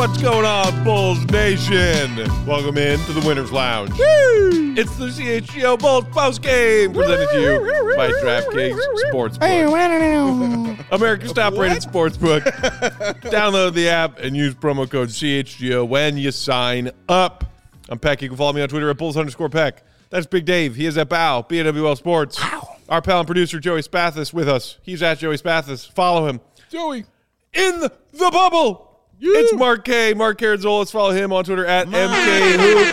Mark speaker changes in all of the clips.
Speaker 1: What's going on, Bulls Nation? Welcome in to the Winners Lounge. Woo! It's the CHGO Bulls Post Game presented to you by DraftKings Sportsbook. America's top-rated sportsbook. Download the app and use promo code CHGO when you sign up. I'm Peck. You can follow me on Twitter at Bulls_Peck. That's Big Dave. He is at BAW, BAWL Sports. Ow. Our pal and producer, Joey Spathis, with us. He's at Joey Spathis. Follow him.
Speaker 2: Joey.
Speaker 1: In the bubble. Yeah. It's Mark K. Mark Carradzolis. Follow him on Twitter at MKHoops.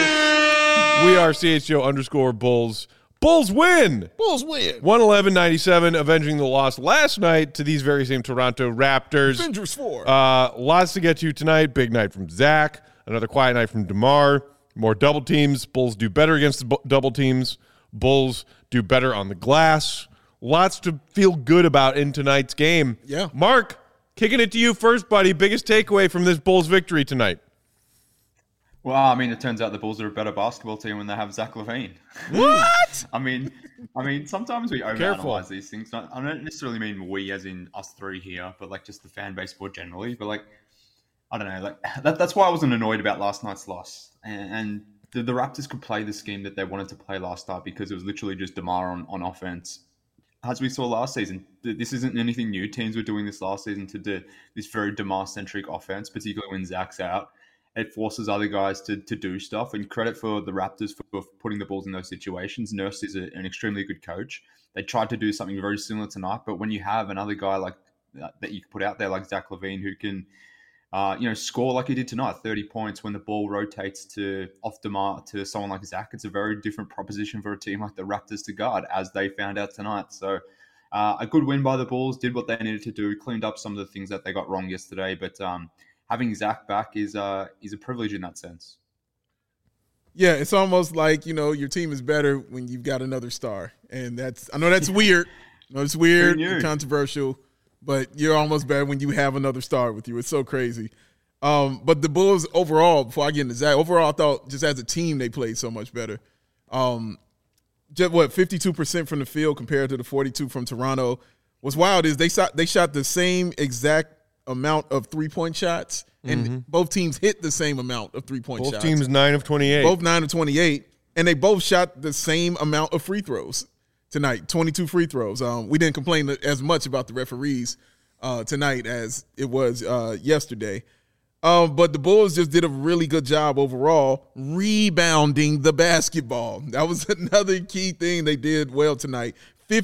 Speaker 1: We are CHGO_Bulls. Bulls win.
Speaker 2: Bulls win.
Speaker 1: 111-97, avenging the loss last night to these very same Toronto Raptors.
Speaker 2: Avengers 4.
Speaker 1: Lots to get to tonight. Big night from Zach. Another quiet night from DeMar. More double teams. Bulls do better against the double teams. Bulls do better on the glass. Lots to feel good about in tonight's game.
Speaker 2: Yeah.
Speaker 1: Mark, kicking it to you first, buddy. Biggest takeaway from this Bulls victory tonight?
Speaker 3: Well, I mean, it turns out the Bulls are a better basketball team when they have Zach LaVine.
Speaker 1: What?
Speaker 3: I mean, sometimes we overanalyze these things. I don't necessarily mean we as in us three here, but like just the fan base more generally. But like, I don't know, like that's why I wasn't annoyed about last night's loss. And the Raptors could play the scheme that they wanted to play last night because it was literally just DeMar on offense. As we saw last season, this isn't anything new. Teams were doing this last season to do this very DeMar-centric offense, particularly when Zach's out. It forces other guys to do stuff. And credit for the Raptors for putting the Bulls in those situations. Nurse is an extremely good coach. They tried to do something very similar tonight, but when you have another guy like that you can put out there like Zach LaVine who can score like he did tonight, 30 points when the ball rotates off DeMar to someone like Zach. It's a very different proposition for a team like the Raptors to guard, as they found out tonight. So a good win by the Bulls, did what they needed to do, cleaned up some of the things that they got wrong yesterday. But having Zach back is a privilege in that sense.
Speaker 2: Yeah, it's almost like, your team is better when you've got another star. And I know that's weird. It's weird and controversial. But you're almost better when you have another star with you. It's so crazy. But the Bulls overall, before I get into Zach, overall I thought just as a team they played so much better. 52% from the field compared to the 42% from Toronto. What's wild is they shot the same exact amount of three-point shots, and both teams hit the same amount of three-point shots.
Speaker 1: Both teams 9 of 28.
Speaker 2: Both 9 of 28, and they both shot the same amount of free throws tonight, 22 free throws. We didn't complain as much about the referees tonight as it was yesterday. But the Bulls just did a really good job overall rebounding the basketball. That was another key thing they did well tonight.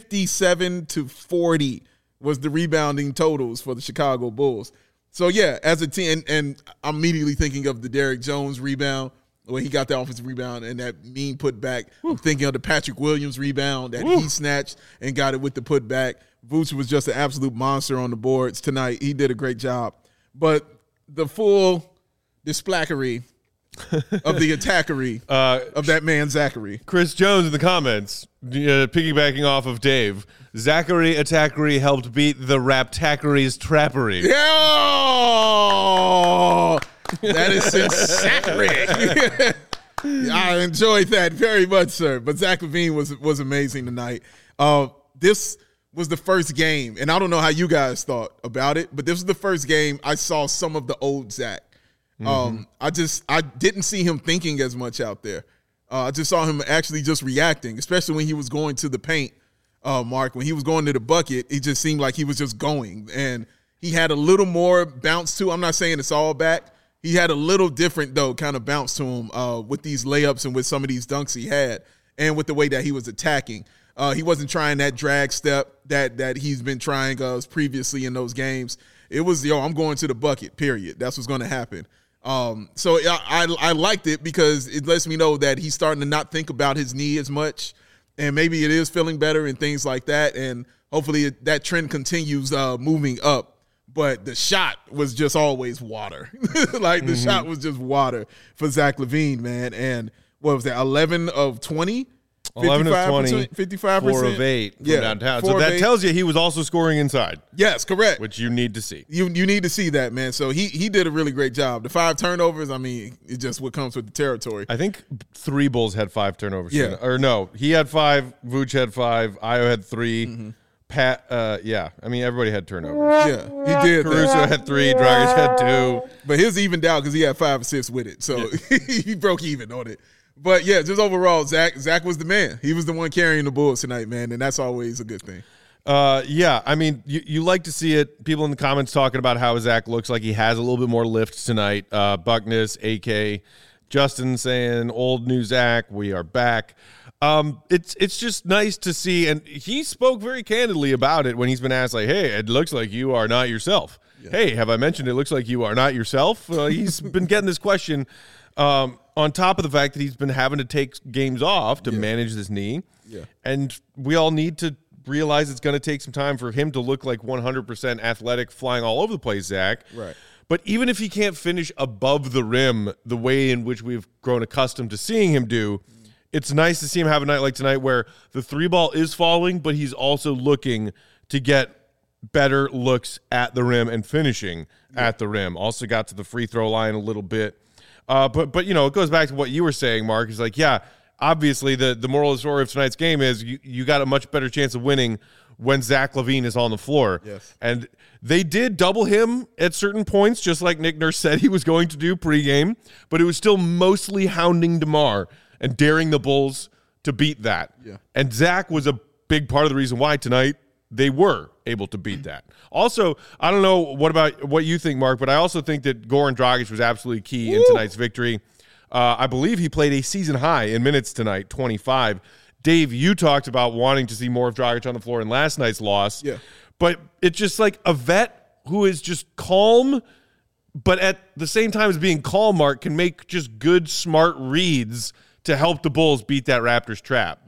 Speaker 2: 57-40 was the rebounding totals for the Chicago Bulls. So, yeah, as a team, and I'm immediately thinking of the Derrick Jones rebound, when he got the offensive rebound and that mean putback. I'm thinking of the Patrick Williams rebound that he snatched and got it with the putback. Vooch was just an absolute monster on the boards tonight. He did a great job. But the full displackery of the attackery of that man Zachary.
Speaker 1: Chris Jones in the comments, piggybacking off of Dave, Zachary Attackery helped beat the Raptackery's Trappery.
Speaker 2: Yeah! That is sincere. I enjoyed that very much, sir. But Zach LaVine was amazing tonight. This was the first game, and I don't know how you guys thought about it, but this was the first game I saw some of the old Zach. I didn't see him thinking as much out there. I just saw him actually just reacting, especially when he was going to the paint, Mark. When he was going to the bucket, it just seemed like he was just going. And he had a little more bounce to him. I'm not saying it's all back. He had a little different, though, kind of bounce to him with these layups and with some of these dunks he had and with the way that he was attacking. He wasn't trying that drag step that he's been trying previously in those games. It was, I'm going to the bucket, period. That's what's going to happen. So I liked it because it lets me know that he's starting to not think about his knee as much, and maybe it is feeling better and things like that, and hopefully that trend continues moving up. But the shot was just always water. The shot was just water for Zach LaVine, man. And what was that, 11 of 20?
Speaker 1: 11 of 20,
Speaker 2: 55%.
Speaker 1: 4 of 8 from downtown. So that tells you he was also scoring inside.
Speaker 2: Yes, correct.
Speaker 1: Which you need to see.
Speaker 2: You need to see that, man. So he did a really great job. The 5 turnovers, I mean, it's just what comes with the territory.
Speaker 1: I think 3 Bulls had 5 turnovers.
Speaker 2: Yeah.
Speaker 1: Or no, he had 5, Vooch had 5, Ayo had 3, Pat, I mean, everybody had turnovers.
Speaker 2: Yeah, he did.
Speaker 1: Caruso had 3, Dragic had 2.
Speaker 2: But his evened out because he had 5 assists with it. So he broke even on it. But, yeah, just overall, Zach was the man. He was the one carrying the Bulls tonight, man, and that's always a good thing.
Speaker 1: I mean, you like to see it. People in the comments talking about how Zach looks like he has a little bit more lift tonight. Buckness, AK, Justin saying, old new Zach, we are back. It's just nice to see, and he spoke very candidly about it when he's been asked, like, hey, it looks like you are not yourself. Yeah. Hey, have I mentioned it looks like you are not yourself? He's been getting this question on top of the fact that he's been having to take games off to manage this knee. Yeah. And we all need to realize it's going to take some time for him to look like 100% athletic, flying all over the place, Zach.
Speaker 2: Right.
Speaker 1: But even if he can't finish above the rim the way in which we've grown accustomed to seeing him do, it's nice to see him have a night like tonight where the 3 ball is falling, but he's also looking to get better looks at the rim and finishing at the rim. Also got to the free throw line a little bit. But you know, it goes back to what you were saying, Mark. It's like, yeah, obviously the moral of the story of tonight's game is you got a much better chance of winning when Zach LaVine is on the floor.
Speaker 2: Yes.
Speaker 1: And they did double him at certain points, just like Nick Nurse said he was going to do pregame, but it was still mostly hounding DeMar and daring the Bulls to beat that.
Speaker 2: Yeah.
Speaker 1: And Zach was a big part of the reason why tonight they were able to beat that. Also, I don't know what you think, Mark, but I also think that Goran Dragic was absolutely key in tonight's victory. I believe he played a season high in minutes tonight, 25. Dave, you talked about wanting to see more of Dragic on the floor in last night's loss.
Speaker 2: Yeah.
Speaker 1: But it's just like a vet who is just calm, but at the same time as being calm, Mark, can make just good, smart reads to help the Bulls beat that Raptors trap.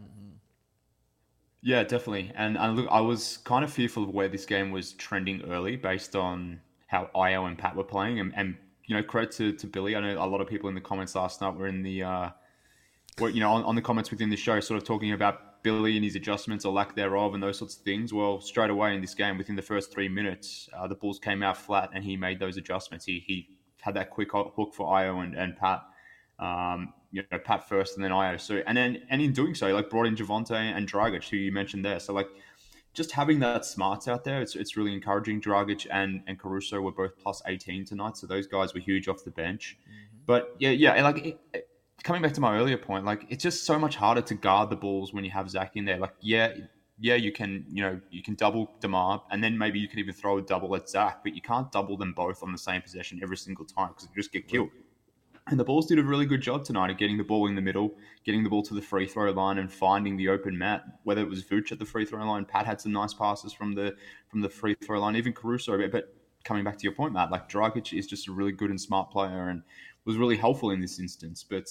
Speaker 3: Yeah, definitely. And look, I was kind of fearful of where this game was trending early based on how Io and Pat were playing. And you know, credit to Billy. I know a lot of people in the comments last night were in the, on the comments within the show, sort of talking about Billy and his adjustments or lack thereof and those sorts of things. Well, straight away in this game, within the first 3 minutes, the Bulls came out flat and he made those adjustments. He had that quick hook for Io and Pat. Pat first and then Io. So and in doing so, like brought in Javonte and Dragic, who you mentioned there. So like just having that smarts out there, it's really encouraging. Dragic and Caruso were both plus 18 tonight, so those guys were huge off the bench. Mm-hmm. But coming back to my earlier point, like it's just so much harder to guard the Bulls when you have Zach in there. Like you can double DeMar, and then maybe you can even throw a double at Zach, but you can't double them both on the same possession every single time because you just get killed. And the Bulls did a really good job tonight of getting the ball in the middle, getting the ball to the free throw line and finding the open mat, whether it was Vooch at the free throw line. Pat had some nice passes from the free throw line, even Caruso. But coming back to your point, Matt, like Dragic is just a really good and smart player and was really helpful in this instance. But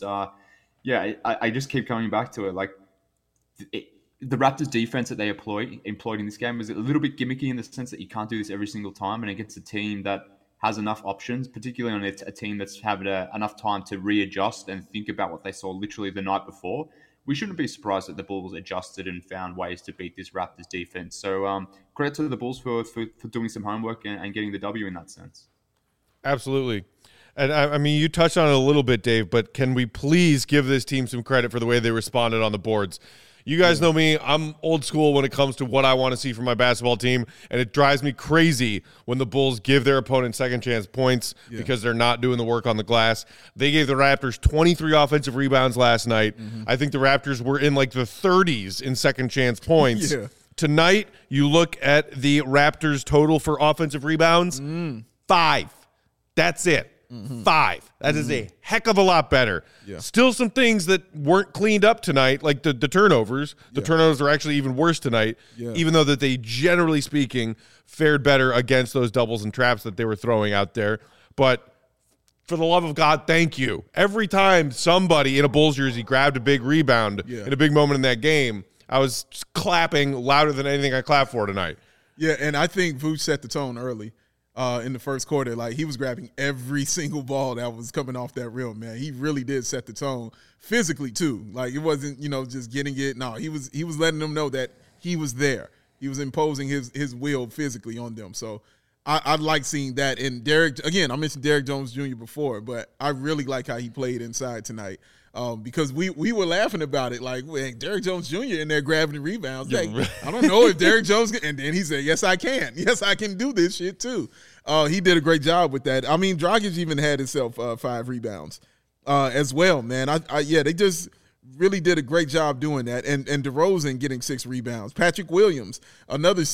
Speaker 3: I just keep coming back to it. Like the Raptors defense that they employed in this game was a little bit gimmicky in the sense that you can't do this every single time. And against a team that has enough options, particularly on a team that's had enough time to readjust and think about what they saw literally the night before, we shouldn't be surprised that the Bulls adjusted and found ways to beat this Raptors defense. So credit to the Bulls for doing some homework and getting the W in that sense.
Speaker 1: Absolutely. And I mean, you touched on it a little bit, Dave, but can we please give this team some credit for the way they responded on the boards? You guys know me. I'm old school when it comes to what I want to see from my basketball team, and it drives me crazy when the Bulls give their opponent second chance points because they're not doing the work on the glass. They gave the Raptors 23 offensive rebounds last night. Mm-hmm. I think the Raptors were in like the 30s in second chance points. Tonight, you look at the Raptors' total for offensive rebounds, 5. That's it. 5. That is a heck of a lot better. Yeah. Still some things that weren't cleaned up tonight, like the turnovers. The turnovers are actually even worse tonight, even though that they, generally speaking, fared better against those doubles and traps that they were throwing out there. But for the love of God, thank you. Every time somebody in a Bulls jersey grabbed a big rebound in a big moment in that game, I was clapping louder than anything I clapped for tonight.
Speaker 2: Yeah, and I think Vooch set the tone early. In the first quarter, like he was grabbing every single ball that was coming off that rim, man. He really did set the tone physically too. Like it wasn't, just getting it. No, he was letting them know that he was there. He was imposing his will physically on them. So I like seeing that. And Derek, again, I mentioned Derek Jones Jr. before, but I really like how he played inside tonight. because we were laughing about it. Like, well, Derrick Jones Jr. in there grabbing the rebounds. Like, I don't know if Derrick Jones – and then he said, yes, I can. Yes, I can do this shit too. He did a great job with that. I mean, Dragic even had himself 5 rebounds as well, man. They just – really did a great job doing that. And DeRozan getting 6 rebounds. Patrick Williams, another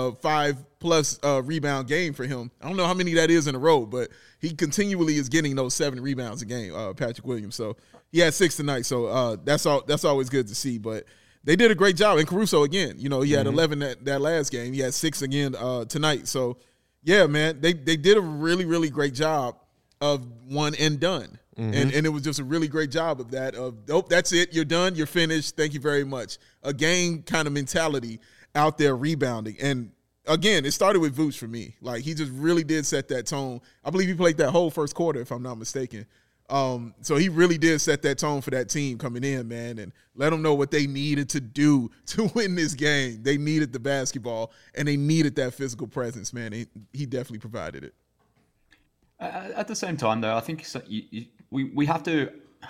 Speaker 2: 5+ rebound game for him. I don't know how many that is in a row, but he continually is getting those 7 rebounds a game, Patrick Williams. So he had 6 tonight. So that's always good to see. But they did a great job. And Caruso, again, he had 11 that last game. He had 6 again tonight. So, yeah, man, they did a really, really great job of one and done. And it was just a really great job of that. That's it. You're done. You're finished. Thank you very much. A game kind of mentality out there rebounding. And, again, it started with Vooch for me. Like, he just really did set that tone. I believe he played that whole first quarter, if I'm not mistaken. So he really did set that tone for that team coming in, man, and let them know what they needed to do to win this game. They needed the basketball, and they needed that physical presence, man. He definitely provided it.
Speaker 3: At the same time, though, I think we have to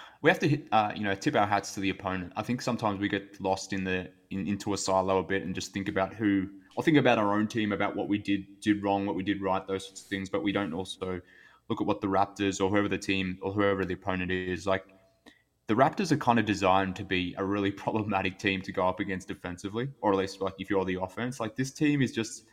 Speaker 3: tip our hats to the opponent. I think sometimes we get lost into a silo a bit and just think about our own team, about what we did wrong, what we did right, those sorts of things. But we don't also look at what the Raptors or whoever the team or whoever the opponent is. Like, the Raptors are kind of designed to be a really problematic team to go up against defensively, or at least like if you're the offense. Like, this team is just.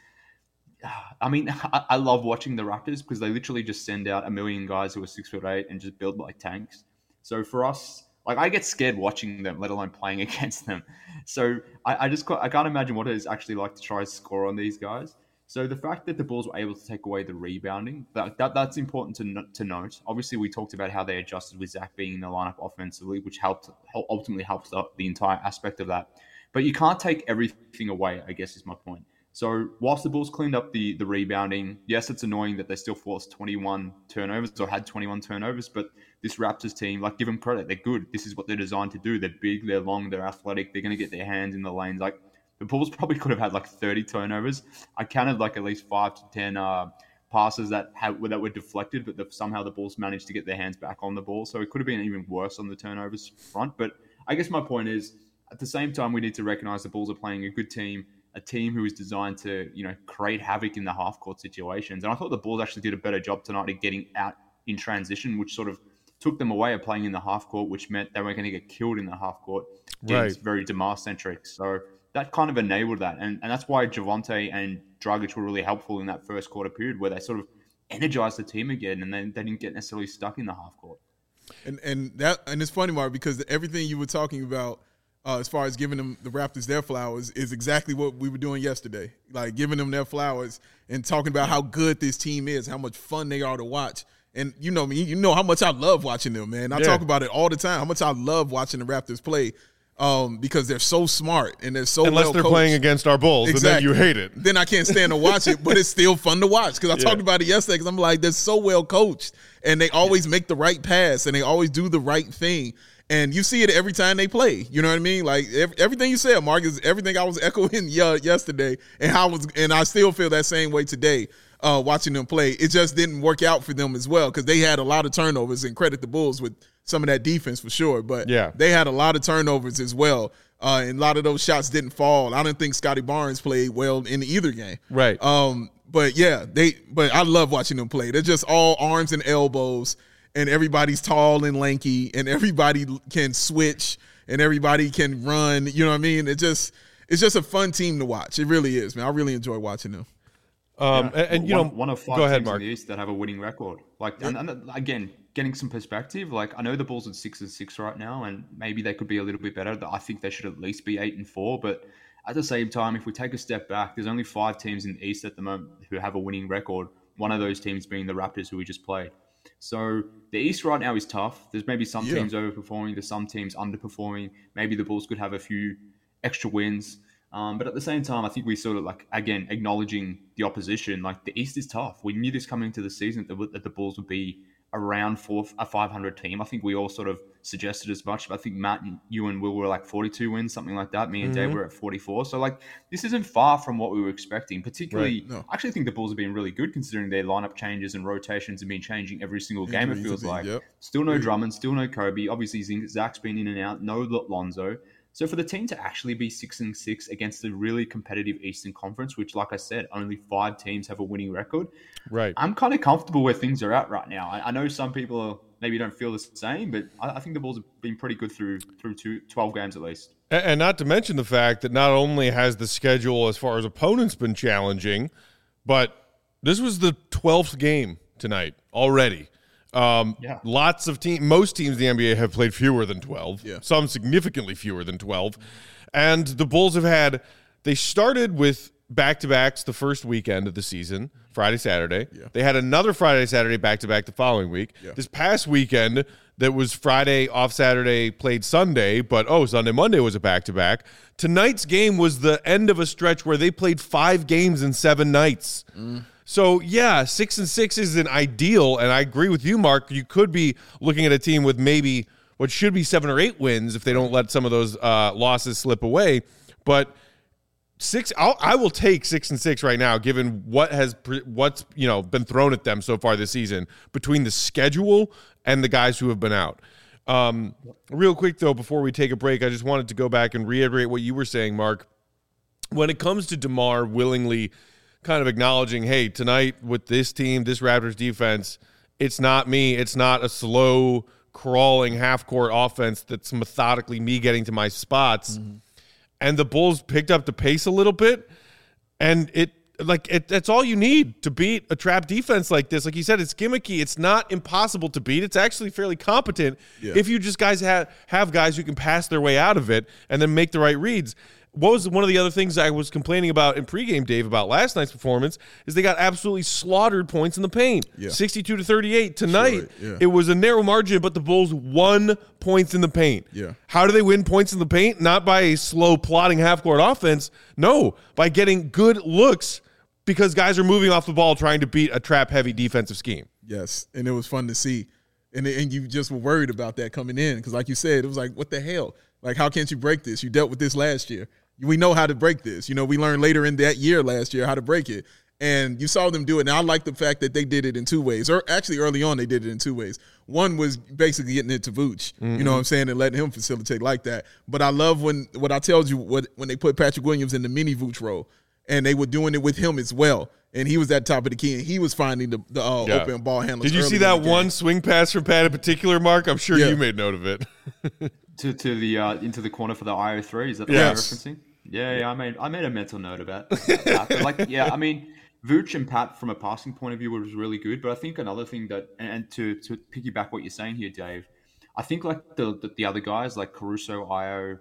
Speaker 3: I mean, I love watching the Raptors because they literally just send out a million guys who are 6'8" and just build like tanks. So for us, like, I get scared watching them, let alone playing against them. So I can't imagine what it is actually like to try and score on these guys. So the fact that the Bulls were able to take away the rebounding, that's important to note. Obviously, we talked about how they adjusted with Zach being in the lineup offensively, which ultimately helped the entire aspect of that. But you can't take everything away, I guess is my point. So whilst the Bulls cleaned up the rebounding, yes, it's annoying that they still forced 21 turnovers or had 21 turnovers, but this Raptors team, like, give them credit. They're good. This is what they're designed to do. They're big, they're long, they're athletic. They're going to get their hands in the lanes. Like, the Bulls probably could have had like 30 turnovers. I counted like at least 5 to 10 passes that were deflected, but somehow the Bulls managed to get their hands back on the ball. So it could have been even worse on the turnovers front. But I guess my point is, at the same time, we need to recognize the Bulls are playing a good team, a team who is designed to, create havoc in the half-court situations. And I thought the Bulls actually did a better job tonight of getting out in transition, which sort of took them away of playing in the half-court, which meant they weren't going to get killed in the half-court. It's very DeMar-centric. So that kind of enabled that. And that's why Javonte and Dragic were really helpful in that first quarter period, where they sort of energized the team again, and then they didn't get necessarily stuck in the half-court.
Speaker 2: And it's funny, Mark, because everything you were talking about, as far as giving them the Raptors their flowers, is exactly what we were doing yesterday. Like, giving them their flowers and talking about how good this team is, how much fun they are to watch. And you know me, you know how much I love watching them, man. I talk about it all the time, how much I love watching the Raptors play, because they're so smart and they're so
Speaker 1: unless they're playing against our Bulls, exactly. And then you hate it.
Speaker 2: Then I can't stand to watch it, but it's still fun to watch because I talked about it yesterday because I'm like, they're so well coached and they always make the right pass and they always do the right thing. And you see it every time they play. You know what I mean? Like, everything you said, Mark, is everything I was echoing yesterday, and I still feel that same way today watching them play. It just didn't work out for them as well because they had a lot of turnovers, and credit the Bulls with some of that defense for sure. But they had a lot of turnovers as well, and a lot of those shots didn't fall. I didn't think Scotty Barnes played well in either game.
Speaker 1: Right.
Speaker 2: But I love watching them play. They're just all arms and elbows. And everybody's tall and lanky, and everybody can switch, and everybody can run. You know what I mean? It's just a fun team to watch. It really is, man. I really enjoy watching them.
Speaker 3: One of 5 teams in the East that have a winning record. Like, and again, getting some perspective. Like, I know the Bulls are 6-6 right now, and maybe they could be a little bit better. I think they should at least be 8-4. But at the same time, if we take a step back, there's only 5 teams in the East at the moment who have a winning record. One of those teams being the Raptors, who we just played. So the East right now is tough. There's maybe some teams overperforming, there's some teams underperforming. Maybe the Bulls could have a few extra wins. But at the same time, I think we sort of, like, again, acknowledging the opposition. Like, the East is tough. We knew this coming into the season that the Bulls would be around a 500 team. I think we all sort of suggested as much. But I think Matt, you and Will were like 42 wins, something like that. Me and Dave were at 44. So like this isn't far from what we were expecting. Particularly, I actually think the Bulls have been really good considering their lineup changes and rotations have been changing every single game. It feels like still no Drummond, still no Kobe. Obviously, Zach's been in and out. No Lonzo. So for the team to actually be 6-6 against a really competitive Eastern Conference, which, like I said, only 5 teams have a winning record,
Speaker 1: right?
Speaker 3: I'm kind of comfortable where things are at right now. I know some people maybe don't feel the same, but I think the Bulls have been pretty good through 12 games at least.
Speaker 1: And not to mention the fact that not only has the schedule as far as opponents been challenging, but this was the 12th game tonight already. Lots of most teams in the NBA have played fewer than 12, some significantly fewer than 12. And the Bulls they started with back-to-backs the first weekend of the season, Friday, Saturday. They had another Friday, Saturday back-to-back the following week. This past weekend, that was Friday off Saturday, played Sunday, but Sunday, Monday was a back-to-back. Tonight's game was the end of a stretch where they played 5 games in 7 nights. So, 6-6 isn't ideal, and I agree with you, Mark. You could be looking at a team with maybe what should be 7 or 8 wins if they don't let some of those losses slip away. But I will take 6-6 right now, given what's been thrown at them so far this season between the schedule and the guys who have been out. Real quick though, before we take a break, I just wanted to go back and reiterate what you were saying, Mark. When it comes to DeMar willingly kind of acknowledging, hey, tonight with this team, this Raptors defense, it's not me. It's not a slow, crawling half-court offense that's methodically me getting to my spots. And the Bulls picked up the pace a little bit, and that's all you need to beat a trap defense like this. Like you said, it's gimmicky. It's not impossible to beat. It's actually fairly competent if you just have guys who can pass their way out of it and then make the right reads. What was one of the other things I was complaining about in pregame, Dave, about last night's performance is they got absolutely slaughtered points in the paint. 62-38. Tonight, it was a narrow margin, but the Bulls won points in the paint. How do they win points in the paint? Not by a slow, plodding half-court offense. No, by getting good looks because guys are moving off the ball trying to beat a trap-heavy defensive scheme.
Speaker 2: Yes, and it was fun to see. And you just were worried about that coming in because, like you said, it was like, what the hell? Like, how can't you break this? You dealt with this last year. We know how to break this. We learned later in that year last year how to break it. And you saw them do it. And I like the fact that they did it in 2 ways. Or actually, early on, they did it in 2 ways. One was basically getting it to Vooch, you know what I'm saying, and letting him facilitate like that. But I love when I told you when they put Patrick Williams in the mini Vooch role, and they were doing it with him as well. And he was at the top of the key, and he was finding the open ball handlers.
Speaker 1: Did you see that one swing pass from Pat in particular, Mark? I'm sure you made note of it.
Speaker 3: to the into the corner for the IO3. Is that what you're referencing? Yeah. I made a mental note about that. But I mean, Vooch and Pat from a passing point of view was really good. But I think another thing that, and to piggyback what you're saying here, Dave, I think like the other guys like Caruso, Io,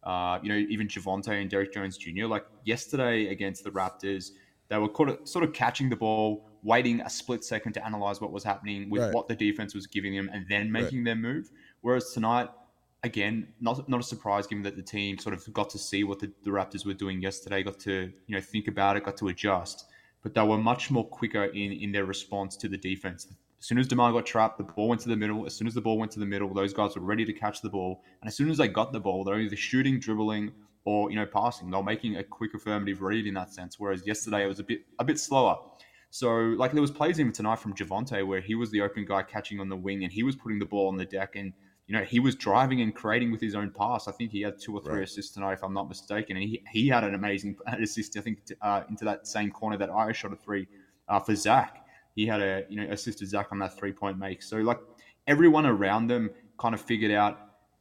Speaker 3: even Javonte and Derrick Jones Jr. Like yesterday against the Raptors, they were sort of catching the ball, waiting a split second to analyze what was happening with what the defense was giving them, and then making their move. Whereas tonight, again, not a surprise given that the team sort of got to see what the Raptors were doing yesterday, got to think about it, got to adjust. But they were much more quicker in their response to the defense. As soon as DeMar got trapped, the ball went to the middle. As soon as the ball went to the middle, those guys were ready to catch the ball. And as soon as they got the ball, they're either shooting, dribbling, or passing. They're making a quick affirmative read in that sense. Whereas yesterday it was a bit slower. So like there was plays even tonight from Javonte where he was the open guy catching on the wing and he was putting the ball on the deck and he was driving and creating with his own pass. I think he had 2 or 3 assists tonight, if I'm not mistaken. And he had an amazing assist, I think, into that same corner that I shot a 3 for Zach. He had assisted Zach on that 3-point make. So like everyone around them kind of figured out,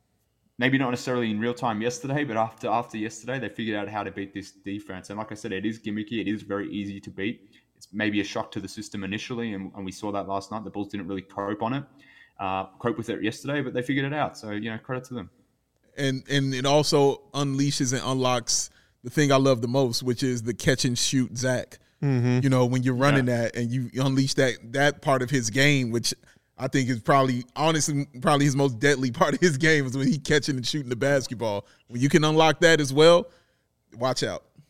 Speaker 3: maybe not necessarily in real time yesterday, but after yesterday, they figured out how to beat this defense. And like I said, it is gimmicky. It is very easy to beat. It's maybe a shock to the system initially, and we saw that last night. The Bulls didn't really cope with it yesterday, but they figured it out. So, credit to them.
Speaker 2: And it also unleashes and unlocks the thing I love the most, which is the catch and shoot Zach. Mm-hmm. When you're running that and you unleash that part of his game, which I think is probably his most deadly part of his game is when he catching and shooting the basketball. When you can unlock that as well, watch out.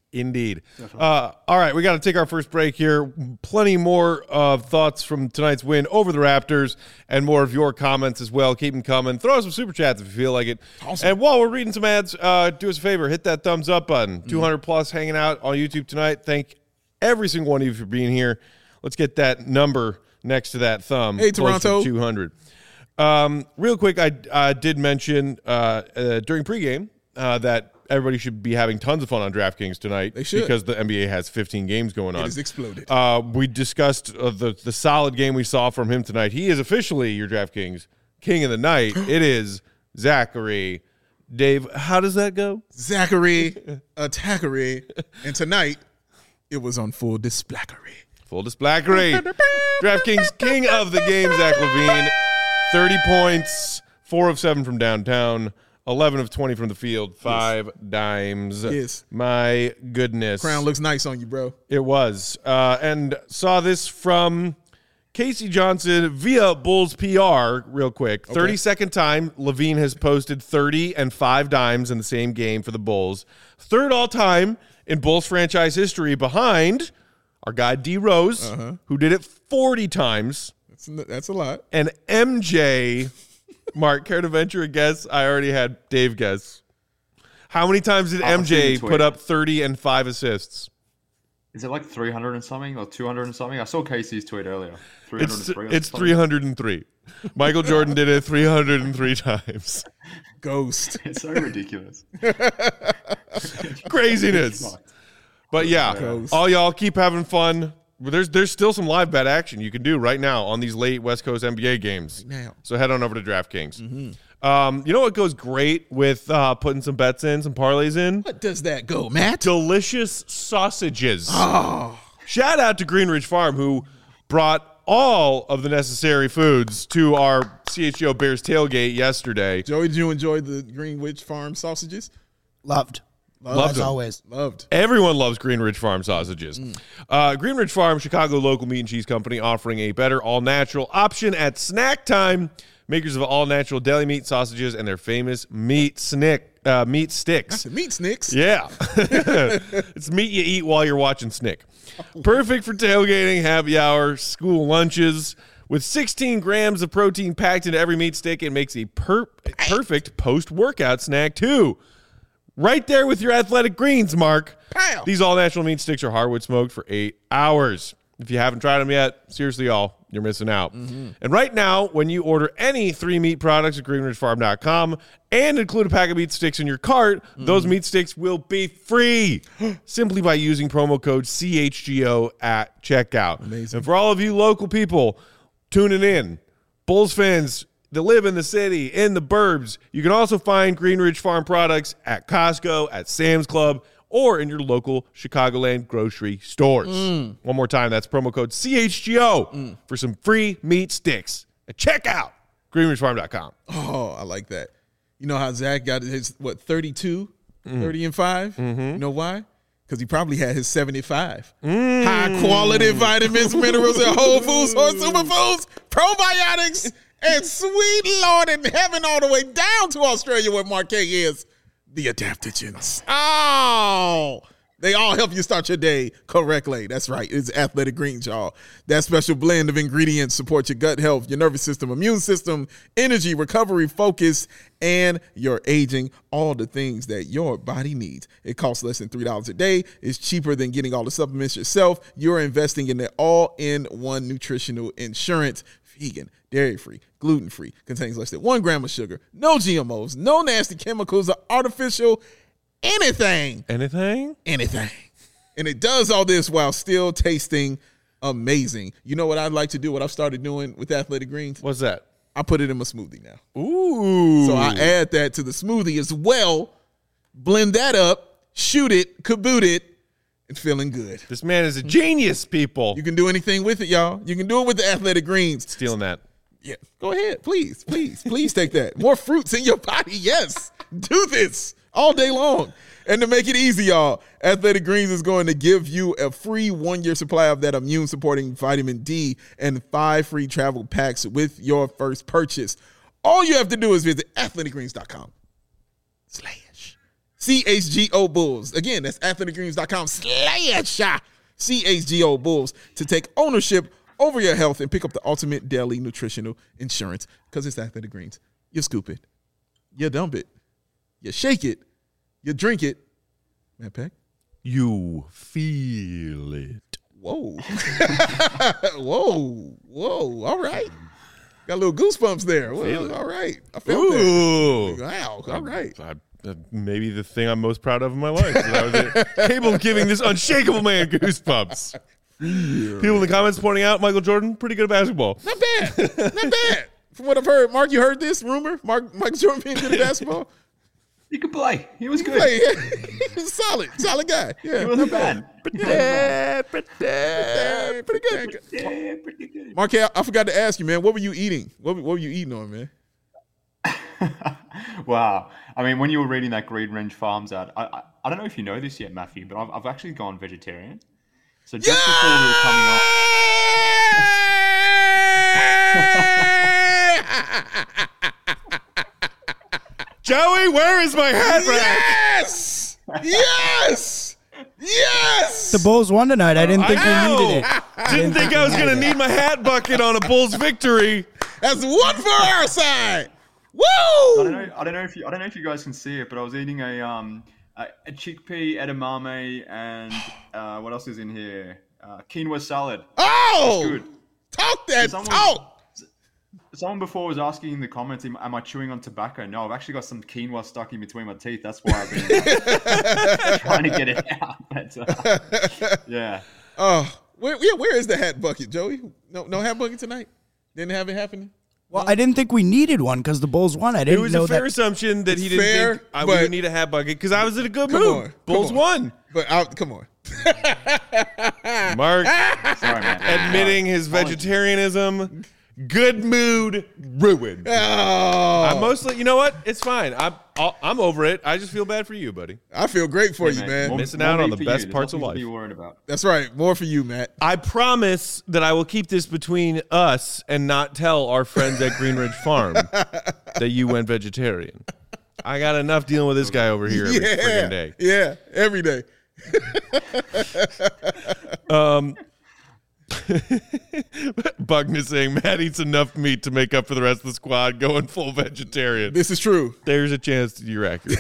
Speaker 1: Indeed. All right, we got to take our first break here. Plenty more thoughts from tonight's win over the Raptors and more of your comments as well. Keep them coming. Throw us some super chats if you feel like it. Awesome. And while we're reading some ads, do us a favor. Hit that thumbs up button. 200 plus hanging out on YouTube tonight. Thank every single one of you for being here. Let's get that number next to that thumb.
Speaker 2: Hey, Toronto.
Speaker 1: 200. Real quick, I did mention during pregame that everybody should be having tons of fun on DraftKings tonight.
Speaker 2: They should.
Speaker 1: Because the NBA has 15 games going on.
Speaker 2: It has exploded.
Speaker 1: We discussed the solid game we saw from him tonight. He is officially your DraftKings king of the night. It is Zachary. Dave, how does that go?
Speaker 2: Zachary Attackery. And tonight, it was on full displackery.
Speaker 1: Full displackery. DraftKings king of the game, Zach LaVine. 30 points, 4 of 7 from downtown. 11 of 20 from the field, 5 dimes.
Speaker 2: Yes.
Speaker 1: My goodness.
Speaker 2: Crown looks nice on you, bro.
Speaker 1: It was. And saw this from Casey Johnson via Bulls PR real quick. 32nd time LaVine has posted 30 and 5 dimes in the same game for the Bulls. Third all time in Bulls franchise history behind our guy D Rose, who did it 40 times.
Speaker 2: That's a lot.
Speaker 1: And MJ... Mark, care to venture a guess? I already had Dave guess. How many times did MJ put up 30 and 5 assists?
Speaker 3: Is it like 300 and something or 200 and something? I saw Casey's tweet earlier. 303.
Speaker 1: It's 303. Michael Jordan did it 303 times.
Speaker 2: Ghost.
Speaker 3: It's so ridiculous.
Speaker 1: Craziness. But yeah,
Speaker 2: Ghost.
Speaker 1: all y'all keep having fun. There's still some live bet action you can do right now on these late West Coast NBA games.
Speaker 2: Right now.
Speaker 1: So head on over to DraftKings. You know what goes great with putting some bets in, some parlays in?
Speaker 2: What does that go, Matt?
Speaker 1: Delicious sausages.
Speaker 2: Oh.
Speaker 1: Shout out to Greenridge Farm, who brought all of the necessary foods to our CHGO Bears tailgate yesterday.
Speaker 2: Joey, did you enjoy the Greenwich Farm sausages?
Speaker 4: Loved
Speaker 1: Loved
Speaker 4: as
Speaker 1: them.
Speaker 4: always.
Speaker 2: Loved.
Speaker 1: Everyone loves Greenridge Farm sausages. Greenridge Farm, Chicago local meat and cheese company, offering a better all-natural option at snack time. Makers of all-natural deli meat sausages and their famous meat sticks.
Speaker 2: That's a meat snicks.
Speaker 1: Yeah. It's meat you eat while you're watching Snick. Perfect for tailgating, happy hour, school lunches. With 16 grams of protein packed into every meat stick, it makes a perfect post-workout snack, too. Right there with your athletic greens, Mark.
Speaker 2: Pow.
Speaker 1: These all-natural meat sticks are hardwood smoked for 8 hours. If you haven't tried them yet, seriously, y'all, you're missing out. And right now, when you order any 3 meat products at greenridgefarm.com and include a pack of meat sticks in your cart, those meat sticks will be free simply by using promo code CHGO at checkout.
Speaker 2: Amazing.
Speaker 1: And for all of you local people tuning in, Bulls fans that live in the city, in the burbs, you can also find Greenridge Farm products at Costco, at Sam's Club, or in your local Chicagoland grocery stores. One more time, that's promo code CHGO for some free meat sticks. And check out greenridgefarm.com.
Speaker 2: Oh, I like that. You know how Zach got his, 32? 30 and 5? You know why? Because he probably had his 75. High-quality vitamins, minerals, and whole foods, or superfoods, probiotics, and sweet Lord in heaven all the way down to Australia where Marquette is. The adaptogens. Oh, they all help you start your day correctly. That's right. It's Athletic Greens, y'all. That special blend of ingredients supports your gut health, your nervous system, immune system, energy, recovery, focus, and your aging, all the things that your body needs. It costs less than $3 a day. It's cheaper than getting all the supplements yourself. You're investing in the all-in-one nutritional insurance. Vegan, dairy-free, gluten-free, contains less than 1 gram of sugar, no GMOs, no nasty chemicals or artificial anything.
Speaker 1: Anything?
Speaker 2: Anything. And it does all this while still tasting amazing. You know what I'd like to do, what I've started doing with Athletic Greens?
Speaker 1: What's that?
Speaker 2: I put it in my smoothie now.
Speaker 1: Ooh.
Speaker 2: So I add that to the smoothie as well, blend that up, shoot it, kaboot it, and feeling good.
Speaker 1: This man is a genius, people.
Speaker 2: You can do anything with it, y'all. You can do it with the Athletic Greens.
Speaker 1: Stealing that.
Speaker 2: Yeah, go ahead. Please take that. More fruits in your body. Yes. Do this all day long. And to make it easy, y'all, Athletic Greens is going to give you a free 1-year supply of that immune-supporting vitamin D and 5 free travel packs with your first purchase. All you have to do is visit athleticgreens.com/CHGO CHGO Bulls. Again, that's athleticgreens.com/CHGO Bulls to take ownership over your health and pick up the ultimate daily nutritional insurance, because it's Athletic Greens. You scoop it, you dump it, you shake it, you drink it. Matt Peck?
Speaker 1: You feel it.
Speaker 2: Whoa. Whoa. All right. Got a little goosebumps there. Well, all right. I felt that. Wow. All right.
Speaker 1: Maybe the thing I'm most proud of in my life. That I was able of giving this unshakable man goosebumps. People in the comments pointing out Michael Jordan, pretty good at basketball.
Speaker 2: Not bad. From what I've heard, Mark, you heard this rumor? Michael Jordan being good at basketball?
Speaker 3: He could play. He was good.
Speaker 2: He was a solid guy. Yeah,
Speaker 3: he wasn't bad.
Speaker 2: Pretty good. Mark, I forgot to ask you, man. What were you eating? What were you eating on, man?
Speaker 3: Wow. I mean, when you were reading that Green Range Farms ad, I don't know if you know this yet, Matthew, but I've actually gone vegetarian. So just before we were coming on.
Speaker 1: Joey, where is my hat rack?
Speaker 2: Yes!
Speaker 4: The Bulls won tonight. I didn't think we needed it.
Speaker 1: Didn't think I was going to need my hat bucket on a Bulls victory.
Speaker 2: That's one for our side. Woo!
Speaker 3: I don't know if you guys can see it, but I was eating a chickpea edamame and what else is in here? Quinoa salad.
Speaker 2: Oh!
Speaker 3: It's good.
Speaker 2: Talk that talk.
Speaker 3: Someone before was asking in the comments, am I chewing on tobacco? No, I've actually got some quinoa stuck in between my teeth. That's why I've been trying to get it out. But, yeah.
Speaker 2: Where is the hat bucket, Joey? No hat bucket tonight? Didn't have it happening?
Speaker 4: Well, I didn't think we needed one because the Bulls won. I didn't know that.
Speaker 1: It was a fair assorption that he didn't think we would need a hat bucket because I was in a good mood. Bulls won.
Speaker 2: But come on.
Speaker 1: Mark
Speaker 3: Sorry, man.
Speaker 1: admitting his vegetarianism. Good mood ruined.
Speaker 2: Oh.
Speaker 1: I'm mostly, you know what? It's fine. I'm over it. I just feel bad for you, buddy.
Speaker 2: I feel great for you, man.
Speaker 1: Missing out on the best parts of life.
Speaker 3: Be worried about.
Speaker 2: That's right. More for you, Matt.
Speaker 1: I promise that I will keep this between us and not tell our friends at Green Ridge Farm that you went vegetarian. I got enough dealing with this guy over here every freaking day.
Speaker 2: Yeah, every day.
Speaker 1: Bugner saying Matt eats enough meat to make up for the rest of the squad going full vegetarian.
Speaker 2: This is true.
Speaker 1: There's a chance that you're accurate.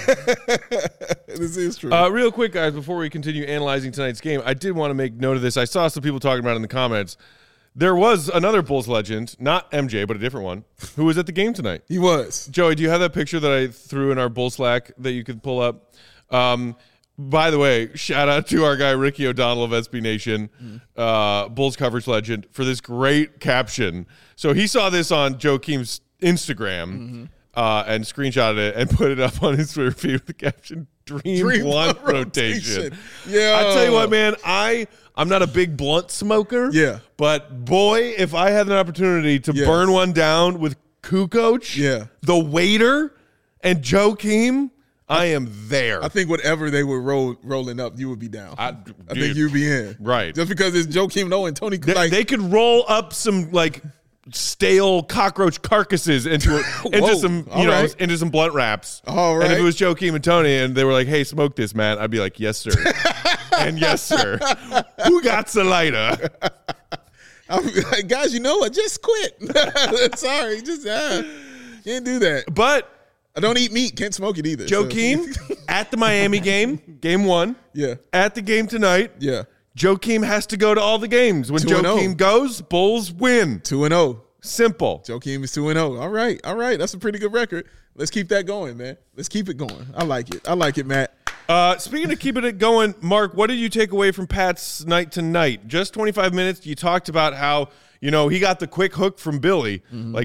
Speaker 2: This is true.
Speaker 1: Real quick, guys, before we continue analyzing tonight's game, I did want to make note of this. I saw some people talking about it in the comments. There was another Bulls legend, not MJ, but a different one, who was at the game tonight.
Speaker 2: He was.
Speaker 1: Joey, do you have that picture that I threw in our Bull Slack that you could pull up? By the way, shout out to our guy Ricky O'Donnell of SB Nation, Bulls coverage legend, for this great caption. So he saw this on Joakim's Instagram and screenshotted it and put it up on his Twitter feed with the caption, Dream Blunt Rotation.
Speaker 2: Yeah.
Speaker 1: I tell you what, man, I'm not a big blunt smoker.
Speaker 2: Yeah.
Speaker 1: But boy, if I had an opportunity to burn one down with Kukoc, the waiter, and Joakim, I am there.
Speaker 2: I think whatever they were rolling up, you would be down. I think you'd be in.
Speaker 1: Right.
Speaker 2: Just because it's Joakim Noah and Tony.
Speaker 1: They could roll up some stale cockroach carcasses into some into some blunt wraps.
Speaker 2: All right.
Speaker 1: And if it was Joakim and Tony and they were like, "Hey, smoke this, man," I'd be like, "Yes, sir." And yes, sir. Who got the lighter?
Speaker 2: I'm like, guys, you know what? Just quit. Sorry, just can't do that.
Speaker 1: But
Speaker 2: I don't eat meat. Can't smoke it either.
Speaker 1: Joakim at the Miami game 1.
Speaker 2: Yeah.
Speaker 1: At the game tonight.
Speaker 2: Yeah.
Speaker 1: Joakim has to go to all the games. When Joakim goes, Bulls win.
Speaker 2: 2-0.
Speaker 1: Simple.
Speaker 2: Joakim is 2-0. All right. That's a pretty good record. Let's keep that going, man. Let's keep it going. I like it, Matt.
Speaker 1: Speaking of keeping it going, Mark, what did you take away from Pat's night tonight? Just 25 minutes. You talked about how, he got the quick hook from Billy,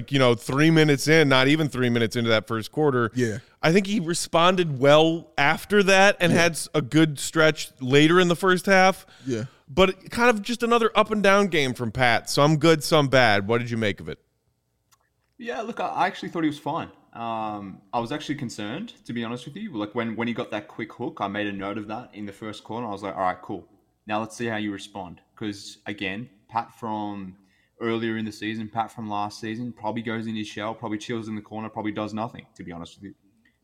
Speaker 1: 3 minutes in, not even 3 minutes into that first quarter.
Speaker 2: Yeah.
Speaker 1: I think he responded well after that and had a good stretch later in the first half.
Speaker 2: Yeah.
Speaker 1: But kind of just another up and down game from Pat. Some good, some bad. What did you make of it?
Speaker 3: Yeah, look, I actually thought he was fine. I was actually concerned, to be honest with you. Like when he got that quick hook, I made a note of that in the first quarter. I was like, all right, cool. Now let's see how you respond. Because, again, Pat from earlier in the season, Pat from last season, probably goes in his shell, probably chills in the corner, probably does nothing, to be honest with you.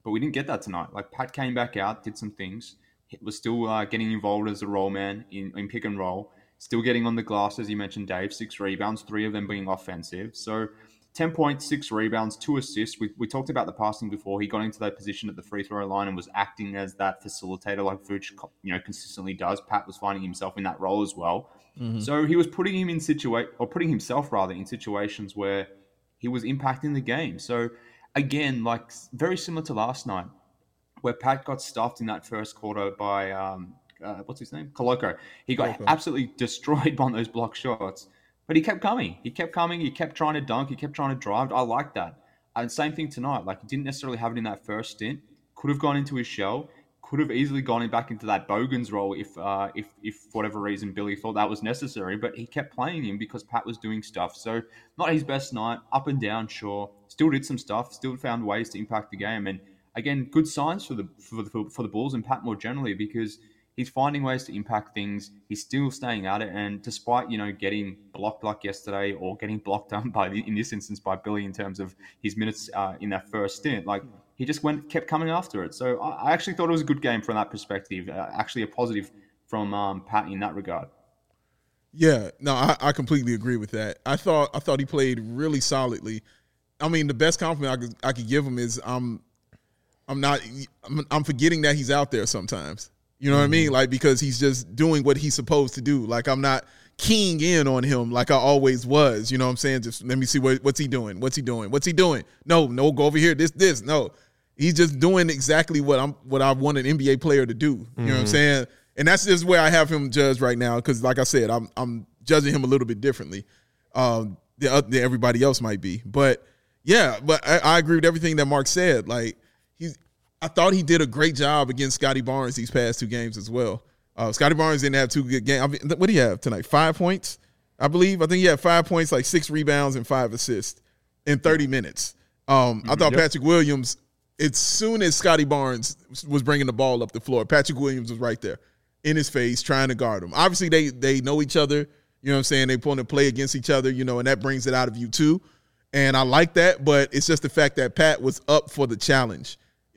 Speaker 3: But we didn't get that tonight. Like, Pat came back out, did some things. He was still getting involved as a roll man in pick and roll. Still getting on the glass, as you mentioned, Dave. 6 rebounds, 3 of them being offensive. So 10 points, 6 rebounds, 2 assists. We talked about the passing before. He got into that position at the free throw line and was acting as that facilitator like Vooch, consistently does. Pat was finding himself in that role as well. Mm-hmm. So he was putting himself in situations where he was impacting the game. So again, like very similar to last night, where Pat got stuffed in that first quarter by what's his name? Koloko. He got absolutely destroyed by those block shots, but he kept coming. He kept trying to dunk. He kept trying to drive. I like that. And same thing tonight. Like, he didn't necessarily have it in that first stint. Could have gone into his shell. Could have easily gone back into that Bogans role if for whatever reason Billy thought that was necessary. But he kept playing him because Pat was doing stuff. So not his best night. Up and down, sure. Still did some stuff. Still found ways to impact the game. And again, good signs for the Bulls and Pat more generally, because he's finding ways to impact things. He's still staying at it. And despite, getting blocked like yesterday, or getting blocked in this instance by Billy in terms of his minutes in that first stint, like, he just kept coming after it. So I actually thought it was a good game from that perspective. Actually a positive from Pat in that regard.
Speaker 2: Yeah, no, I completely agree with that. I thought he played really solidly. I mean, the best compliment I could give him is I'm forgetting that he's out there sometimes. You know what I mean? Like, because he's just doing what he's supposed to do. Like, I'm not keying in on him like I always was. You know what I'm saying? Just let me see what's he doing. What's he doing? What's he doing? No, go over here. This. No, he's just doing exactly what I want an NBA player to do. You know what I'm saying? And that's just where I have him judged right now. Because, like I said, I'm judging him a little bit differently than everybody else might be. But yeah, but I agree with everything that Mark said. Like, I thought he did a great job against Scotty Barnes these past 2 games as well. Scotty Barnes didn't have 2 good games. I mean, what do you have tonight? 5 points, I believe. I think he had 5 points, like 6 rebounds and 5 assists in 30 minutes. I thought Patrick Williams, as soon as Scotty Barnes was bringing the ball up the floor, Patrick Williams was right there in his face trying to guard him. Obviously, they know each other. You know what I'm saying? They put to play against each other, and that brings it out of you too. And I like that, but it's just the fact that Pat was up for the challenge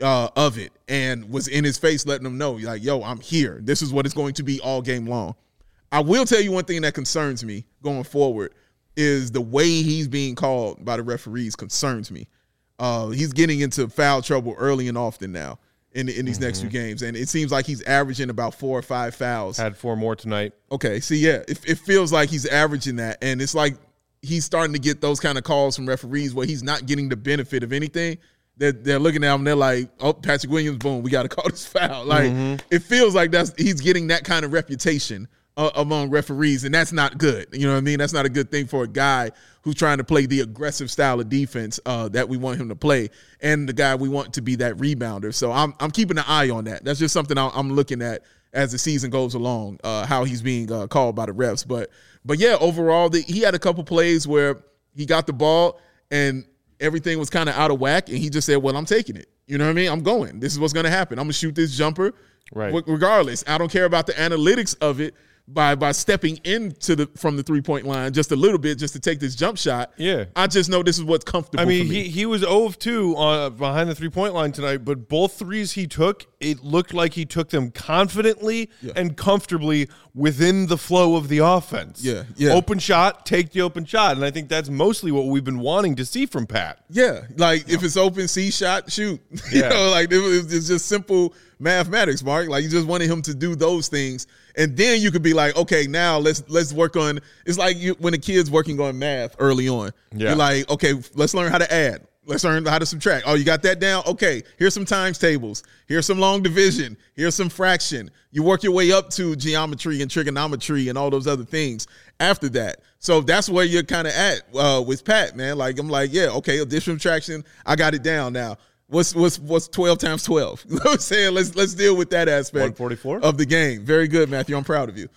Speaker 2: of it and was in his face letting them know, like, yo, I'm here. This is what it's going to be all game long. I will tell you one thing that concerns me going forward is the way he's being called by the referees concerns me. He's getting into foul trouble early and often now in these next 2 games, and it seems like he's averaging about 4 or 5 fouls.
Speaker 1: Had 4 more tonight. Okay,
Speaker 2: see, yeah, it feels like he's averaging that, and it's like he's starting to get those kind of calls from referees where he's not getting the benefit of anything. They're looking at him, they're like, oh, Patrick Williams, boom, we got to call this foul. Like, it feels like he's getting that kind of reputation among referees, and that's not good. You know what I mean? That's not a good thing for a guy who's trying to play the aggressive style of defense that we want him to play, and the guy we want to be that rebounder. So I'm keeping an eye on that. That's just something I'm looking at as the season goes along, how he's being called by the refs. But yeah, overall, he had a couple plays where he got the ball and everything was kind of out of whack, and he just said, well, I'm taking it. You know what I mean? I'm going. This is what's going to happen. I'm going to shoot this jumper regardless. I don't care about the analytics of it by stepping from the 3-point line just a little bit just to take this jump shot.
Speaker 1: Yeah.
Speaker 2: I just know this is what's comfortable for me.
Speaker 1: He was 0 of 2 behind the 3-point line tonight, but both threes he took, it looked like he took them confidently and comfortably within the flow of the offense.
Speaker 2: Yeah.
Speaker 1: Open shot, take the open shot, and I think that's mostly what we've been wanting to see from Pat.
Speaker 2: Yeah, like if it's open, see shot, shoot. Like it's just simple mathematics, Mark. Like, you just wanted him to do those things, and then you could be like, okay, now let's work on. It's like when a kid's working on math early on. Yeah. You're like, okay, let's learn how to add. Let's learn how to subtract. Oh, you got that down? Okay, here's some times tables. Here's some long division. Here's some fraction. You work your way up to geometry and trigonometry and all those other things after that. So that's where you're kind of at with Pat, man. Like, I'm like, yeah, okay, addition, subtraction, I got it down now. What's 12 times 12? You know what I'm saying? Let's deal with that aspect
Speaker 1: 144
Speaker 2: of the game. Very good, Matthew. I'm proud of you.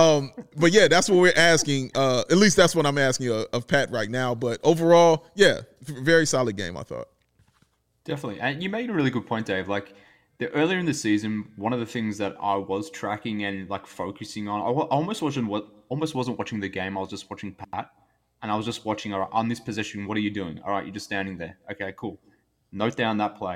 Speaker 2: But yeah, that's what we're asking. At least that's what I'm asking of Pat right now. But overall, yeah, very solid game, I thought.
Speaker 3: Definitely. And you made a really good point, Dave. Like, earlier in the season, one of the things that I was tracking and like focusing on, I almost wasn't watching the game. I was just watching Pat, and I was just watching, all right, on this position, what are you doing? All right, you're just standing there. Okay, cool. Note down that play.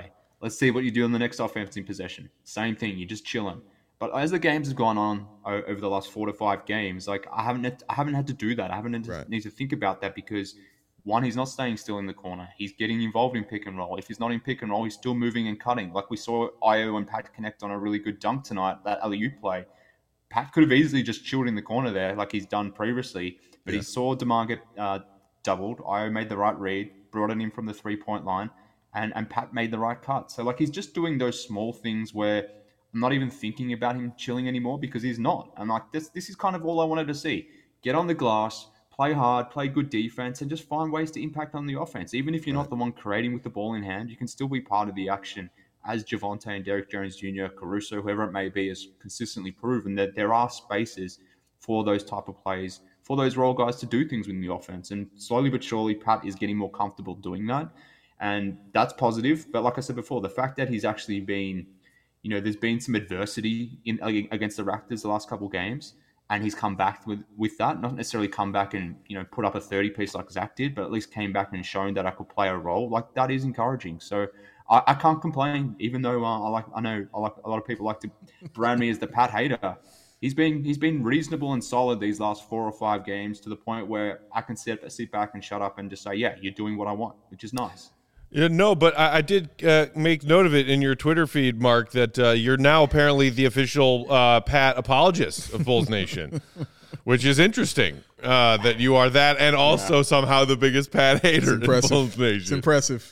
Speaker 3: Let's see what you do on the next offensive possession. Same thing. You're just chilling. But as the games have gone on over the last 4 to 5 games, like I haven't had to do that. I haven't need to think about that because one, he's not staying still in the corner. He's getting involved in pick and roll. If he's not in pick and roll, he's still moving and cutting. Like we saw Io and Pat connect on a really good dunk tonight, that alley-oop play. Pat could have easily just chilled in the corner there like he's done previously, but he saw DeMar get doubled. Io made the right read, brought it in from the three-point line, and Pat made the right cut. So like he's just doing those small things where I'm not even thinking about him chilling anymore because he's not. And like this is kind of all I wanted to see. Get on the glass, play hard, play good defense, and just find ways to impact on the offense. Even if you're not the one creating with the ball in hand, you can still be part of the action, as Javonte and Derrick Jones Jr., Caruso, whoever it may be, has consistently proven that there are spaces for those type of plays, for those role guys to do things within the offense. And slowly but surely, Pat is getting more comfortable doing that. And that's positive. But like I said before, the fact that he's actually been, there's been some adversity against the Raptors the last couple of games, and he's come back with that. Not necessarily come back and, put up a 30-piece like Zach did, but at least came back and shown that I could play a role. Like, that is encouraging. So I can't complain, even though I know a lot of people like to brand me as the Pat hater. He's been reasonable and solid these last 4 or 5 games to the point where I can sit back and shut up and just say, yeah, you're doing what I want, which is nice.
Speaker 1: Yeah, no, but I did make note of it in your Twitter feed, Mark, that you're now apparently the official Pat apologist of Bulls Nation, which is interesting that you are that and also somehow the biggest Pat hater in Bulls Nation.
Speaker 2: It's impressive.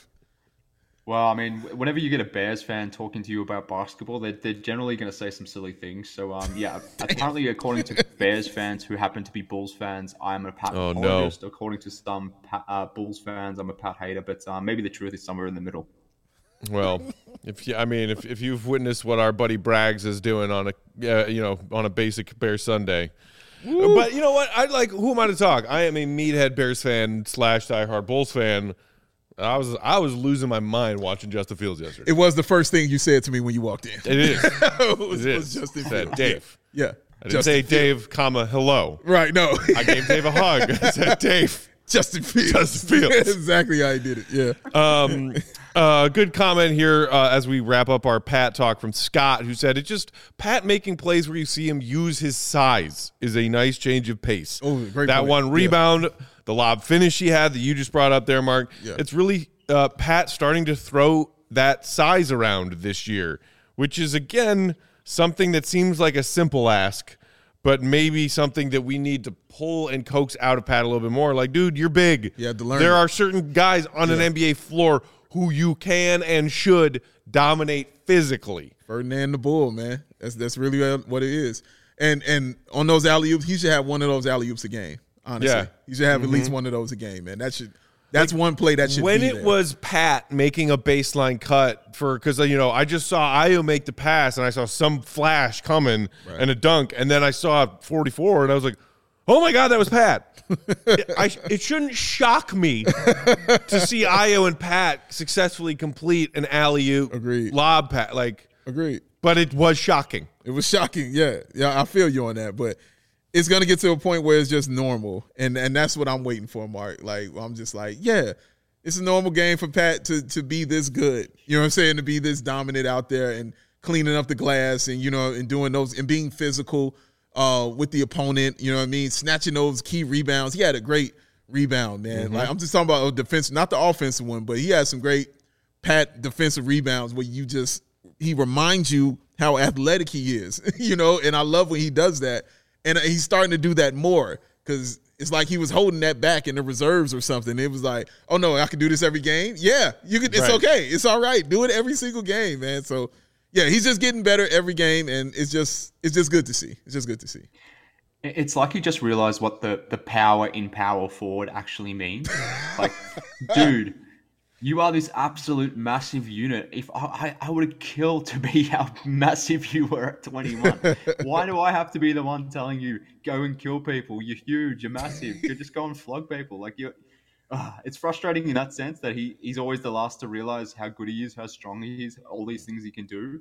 Speaker 3: Well, I mean, whenever you get a Bears fan talking to you about basketball, they're generally going to say some silly things. So, apparently, according to Bears fans who happen to be Bulls fans, I'm a Pat apologist. No. According to some Bulls fans, I'm a Pat hater. But maybe the truth is somewhere in the middle.
Speaker 1: Well, if you've witnessed what our buddy Braggs is doing on a basic Bears Sunday. Woo. But you know what? who am I to talk? I am a meathead Bears fan / diehard Bulls fan. I was losing my mind watching Justin Fields yesterday.
Speaker 2: It was the first thing you said to me when you walked in.
Speaker 1: It is.
Speaker 2: it was Justin Fields.
Speaker 1: Dave.
Speaker 2: Yeah.
Speaker 1: I didn't say Dave, hello.
Speaker 2: Right, no.
Speaker 1: I gave Dave a hug. I said, Dave.
Speaker 2: Justin Fields.
Speaker 1: That's
Speaker 2: exactly how I did it, yeah.
Speaker 1: Good comment here as we wrap up our Pat talk from Scott, who said, it's just Pat making plays where you see him use his size is a nice change of pace.
Speaker 2: Oh, great
Speaker 1: that
Speaker 2: point.
Speaker 1: One rebound, the lob finish he had that you just brought up there, Mark. Yeah. It's really Pat starting to throw that size around this year, which is, again, something that seems like a simple ask, but maybe something that we need to pull and coax out of Pat a little bit more. Like, dude, you're big.
Speaker 2: You have to learn.
Speaker 1: There are certain guys on an NBA floor who you can and should dominate physically.
Speaker 2: Ferdinand the Bull, man. That's really what it is. And on those alley-oops, he should have one of those alley-oops a game, honestly. Yeah. He should have at least one of those a game, man. That's one play that should
Speaker 1: when
Speaker 2: be
Speaker 1: it
Speaker 2: there.
Speaker 1: Was Pat making a baseline cut because I just saw Io make the pass and I saw some flash coming and a dunk, and then I saw 44 and I was like, oh my God, that was Pat. It shouldn't shock me to see Io and Pat successfully complete an alley-oop lob pass.
Speaker 2: Agreed.
Speaker 1: But it was shocking.
Speaker 2: It was shocking, yeah. Yeah, I feel you on that, but it's going to get to a point where it's just normal, and that's what I'm waiting for, Mark. Like, I'm just like, yeah, it's a normal game for Pat to be this good. You know what I'm saying? To be this dominant out there and cleaning up the glass and, and doing those and being physical with the opponent, you know what I mean? Snatching those key rebounds. He had a great rebound, man. Mm-hmm. Like, I'm just talking about defense, not the offensive one, but he had some great Pat defensive rebounds where he reminds you how athletic he is, and I love when he does that. And he's starting to do that more because it's like he was holding that back in the reserves or something. It was like, oh, no, I can do this every game? Yeah, you can. It's okay. It's all right. Do it every single game, man. So, yeah, he's just getting better every game, and it's just good to see. It's just good to see.
Speaker 3: It's like he just realized what the power in power forward actually means. Like, dude, you are this absolute massive unit. If I would have killed to be how massive you were at 21. Why do I have to be the one telling you, go and kill people? You're huge. You're massive. You just go and flog people. Like it's frustrating in that sense that he's always the last to realize how good he is, how strong he is, all these things he can do.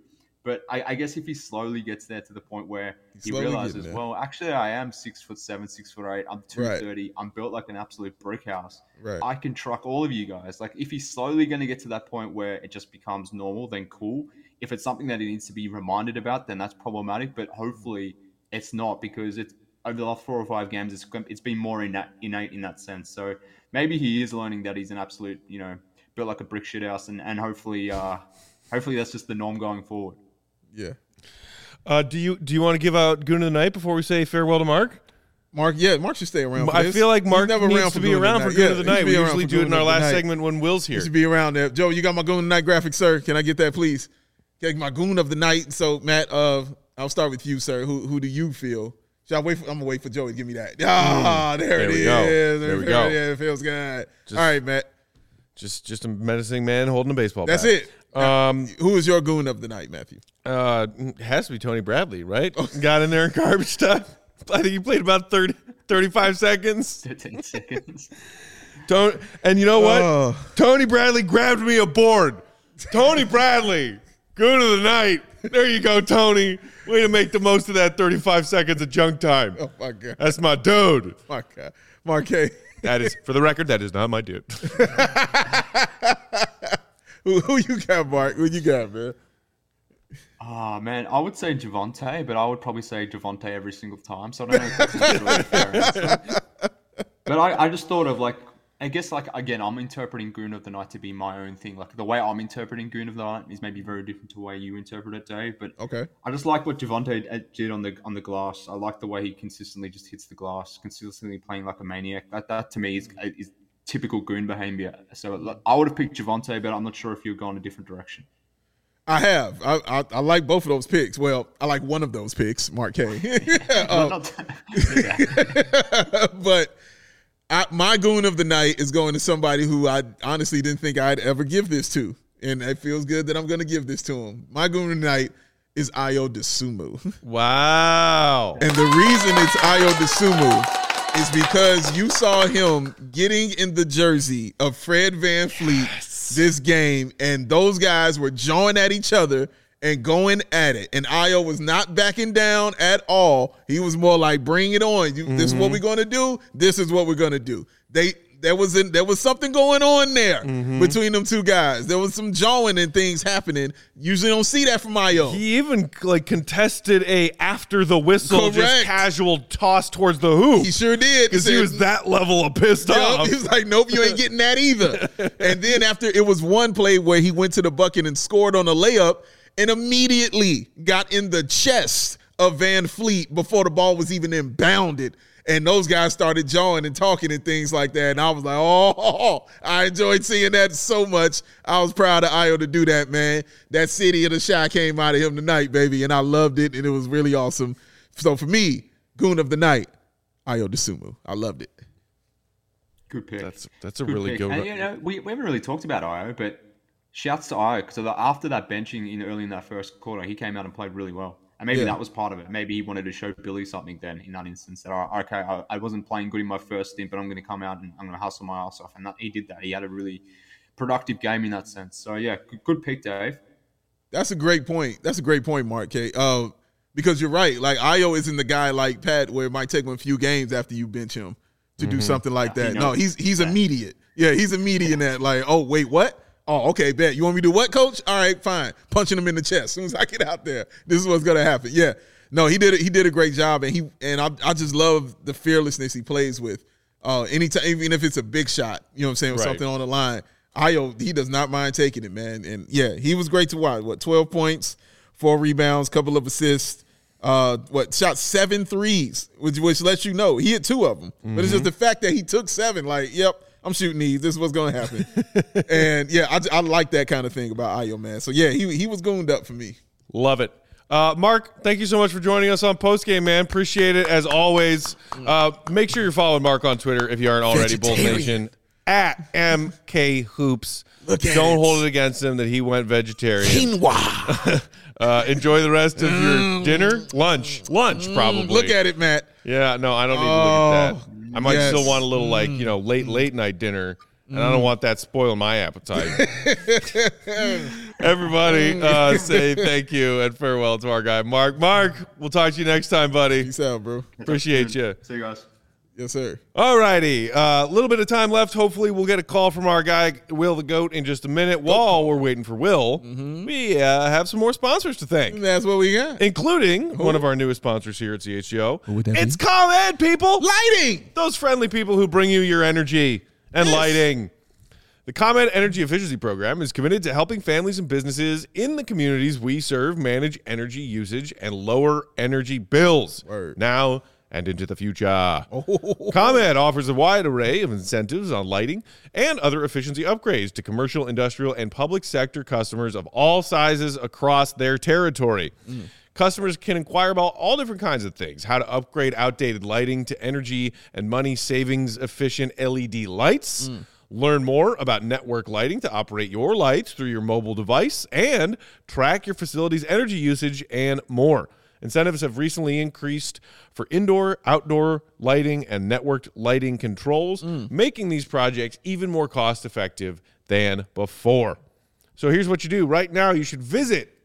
Speaker 3: But I guess if he slowly gets there to the point where he realizes, well, actually I am 6'7", 6'8", I'm 230, right. I'm built like an absolute brick house.
Speaker 2: Right.
Speaker 3: I can truck all of you guys. Like if he's slowly going to get to that point where it just becomes normal, then cool. If it's something that he needs to be reminded about, then that's problematic. But hopefully it's not, because it's over the last 4 or 5 games, it's been more innate in that sense. So maybe he is learning that he's an absolute, built like a brick shit house, and hopefully that's just the norm going forward.
Speaker 2: Yeah.
Speaker 1: Do you want to give out Goon of the Night before we say farewell to Mark?
Speaker 2: Mark should stay around for
Speaker 1: I
Speaker 2: this.
Speaker 1: feel like Mark needs to be around for Goon of the Night. We usually do it in our last segment when Will's here.
Speaker 2: He should be around there. Joe, you got my Goon of the Night graphic, sir. Can I get that, please? Get my Goon of the Night. So, Matt, I'll start with you, sir. Who do you feel? Should I wait? I'm going to wait for Joey to give me that. There it is.
Speaker 1: There we go.
Speaker 2: Yeah, it feels good. All right, Matt.
Speaker 1: Just a menacing man holding a baseball bat.
Speaker 2: That's it. Who is your Goon of the Night, Matthew?
Speaker 1: It has to be Tony Bradley, right? Got in there in garbage time. I think he played about 35 seconds.
Speaker 3: 13 seconds.
Speaker 1: And you know what? Tony Bradley grabbed me a board. Tony Bradley, Goon of the Night. There you go, Tony. Way to make the most of that 35 seconds of junk time.
Speaker 2: Oh, my God.
Speaker 1: That's my dude.
Speaker 2: My God. Marquez.
Speaker 1: That is, for the record, that is not my dude.
Speaker 2: Who you got, Mark? Who you got, man?
Speaker 3: Oh, man, I would say Javonte, but I would probably say Javonte every single time. So I don't know if that's necessarily a fair answer. But I just thought of, like, I guess, like, again, I'm interpreting Goon of the Night to be my own thing. Like, the way I'm interpreting Goon of the Night is maybe very different to the way you interpret it, Dave. But
Speaker 2: okay. I
Speaker 3: just like what Javonte did on the glass. I like the way he consistently just hits the glass, consistently playing like a maniac. That to me is typical Goon behavior. So I would have picked Javonte, but I'm not sure if you've gone a different direction.
Speaker 2: I have. I like both of those picks. Well, I like one of those picks, Mark K. But my Goon of the Night is going to somebody who I honestly didn't think I'd ever give this to. And it feels good that I'm going to give this to him. My Goon of the Night is Ayo Dosunmu.
Speaker 1: Wow.
Speaker 2: And the reason it's Ayo Dosunmu is because you saw him getting in the jersey of Fred VanVleet this game, and those guys were jawing at each other and going at it. And Ayo was not backing down at all. He was more like, bring it on. This is what we're going to do. This is what we're going to do. There was something going on there between them two guys. There was some jawing and things happening. Usually don't see that from Ayo.
Speaker 1: He even contested a after the whistle, just casual toss towards the hoop.
Speaker 2: He sure did.
Speaker 1: Because he was that level of pissed off.
Speaker 2: He was like, nope, you ain't getting that either. And then after, it was one play where he went to the bucket and scored on a layup and immediately got in the chest of VanVleet before the ball was even inbounded. And those guys started jawing and talking and things like that. And I was like, I enjoyed seeing that so much. I was proud of Ayo to do that, man. That city of the shy came out of him tonight, baby. And I loved it. And it was really awesome. So for me, Goon of the Night, Ayo Dosunmu. I loved it.
Speaker 3: Good pick.
Speaker 1: That's a really good one.
Speaker 3: And, we haven't really talked about Ayo, but shouts to Ayo. Because after that benching early in that first quarter, he came out and played really well. And maybe that was part of it. Maybe he wanted to show Billy something then in that instance. That, I wasn't playing good in my first stint, but I'm going to come out and I'm going to hustle my ass off. And he did that. He had a really productive game in that sense. So, yeah, good pick, Dave.
Speaker 2: That's a great point. That's a great point, Mark K. Because you're right. Like, Ayo isn't the guy like Pat where it might take him a few games after you bench him to do something like that. No, he's immediate. Yeah, he's immediate in that. Like, oh, wait, what? Oh, okay, bet. You want me to do what, coach? All right, fine. Punching him in the chest. As soon as I get out there, this is what's going to happen. Yeah. No, he did a great job, and I just love the fearlessness he plays with. Anytime, even if it's a big shot, you know what I'm saying, with something on the line, Ayo, he does not mind taking it, man. And, yeah, he was great to watch. 12 points, 4 rebounds, couple of assists. Shot 7 threes, which lets you know. He hit 2 of them. But it's just the fact that he took 7, like, yep, I'm shooting these. This is what's going to happen. And, yeah, I like that kind of thing about Ayo, man. So, yeah, he was gooned up for me.
Speaker 1: Love it. Mark, thank you so much for joining us on Postgame, man. Appreciate it, as always. Make sure you're following Mark on Twitter if you aren't already. Bulls Nation, at MK Hoops. Don't hold it against him that he went vegetarian.
Speaker 2: Quinoa.
Speaker 1: Enjoy the rest of your dinner. Lunch, probably.
Speaker 2: Look at it, Matt.
Speaker 1: Yeah, no, I don't need to look at that. I might still want a little, late night dinner, and I don't want that spoiling my appetite. Everybody, say thank you and farewell to our guy, Mark. Mark, we'll talk to you next time, buddy.
Speaker 2: Peace out, bro.
Speaker 1: Appreciate you.
Speaker 3: See you guys.
Speaker 2: Yes, sir.
Speaker 1: All righty. A little bit of time left. Hopefully, we'll get a call from our guy, Will the Goat, in just a minute. While we're waiting for Will, we have some more sponsors to thank,
Speaker 2: That's what we got.
Speaker 1: including one of our newest sponsors here at CHGO.
Speaker 2: Who would that
Speaker 1: It's ComEd, people.
Speaker 2: Lighting.
Speaker 1: Those friendly people who bring you your energy and lighting. The ComEd Energy Efficiency Program is committed to helping families and businesses in the communities we serve manage energy usage and lower energy bills now and into the future. ComEd offers a wide array of incentives on lighting and other efficiency upgrades to commercial, industrial, and public sector customers of all sizes across their territory. Customers can inquire about all different kinds of things, how to upgrade outdated lighting to energy and money savings efficient LED lights. Learn more about network lighting to operate your lights through your mobile device and track your facility's energy usage and more. Incentives have recently increased for indoor, outdoor lighting and networked lighting controls, making these projects even more cost-effective than before. So here's what you do. Right now, you should visit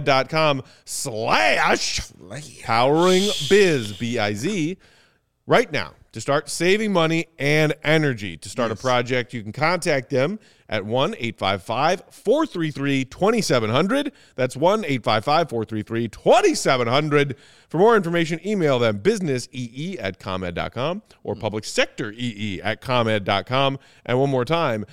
Speaker 1: ComEd.com/poweringbiz, B-I-Z, right now to start saving money and energy. To start a project, you can contact them at 1-855-433-2700. That's 1-855-433-2700. For more information, email them businessee@comed.com or publicsectoree@comed.com. And one more time,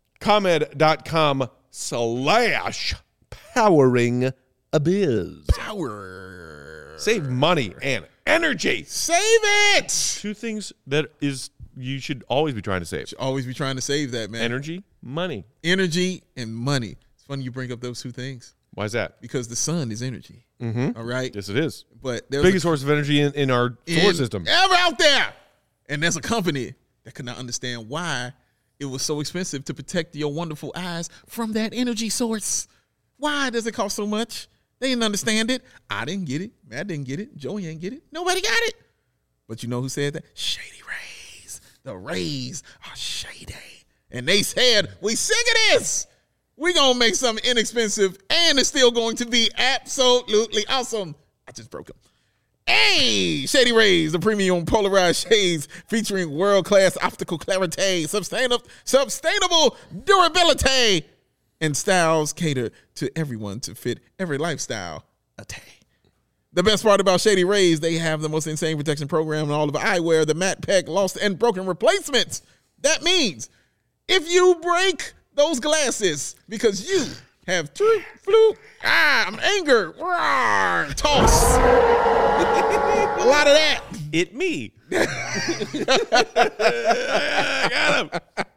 Speaker 1: ComEd.com/poweringbiz.
Speaker 2: Power.
Speaker 1: Save money and energy.
Speaker 2: Save it.
Speaker 1: Two things that you should always be trying to save.
Speaker 2: Always be trying to save that, man.
Speaker 1: Energy, money.
Speaker 2: Energy and money. It's funny you bring up those two things
Speaker 1: Why is that?
Speaker 2: because the sun is energy. All right.
Speaker 1: Yes, it is.
Speaker 2: But there's
Speaker 1: Biggest source of energy in our solar system.
Speaker 2: ever out there. And there's a company that could not understand why it was so expensive to protect your wonderful eyes from that energy source. Why does it cost so much? They didn't understand it. I didn't get it. Matt didn't get it. Joey didn't get it. Nobody got it. But you know who said that? Shady Rays. The Rays are shady. And they said, we sick of this. We going to make something inexpensive and it's still going to be absolutely awesome. I just broke them. Hey, Shady Rays, the premium polarized shades featuring world-class optical clarity, sustainable durability, and styles cater to everyone to fit every lifestyle. The best part about Shady Rays, they have the most insane protection program in all of eyewear, the matte pack, lost and broken replacements. That means if you break those glasses because you have I'm anger, toss. A lot of that.
Speaker 1: It me. Got him.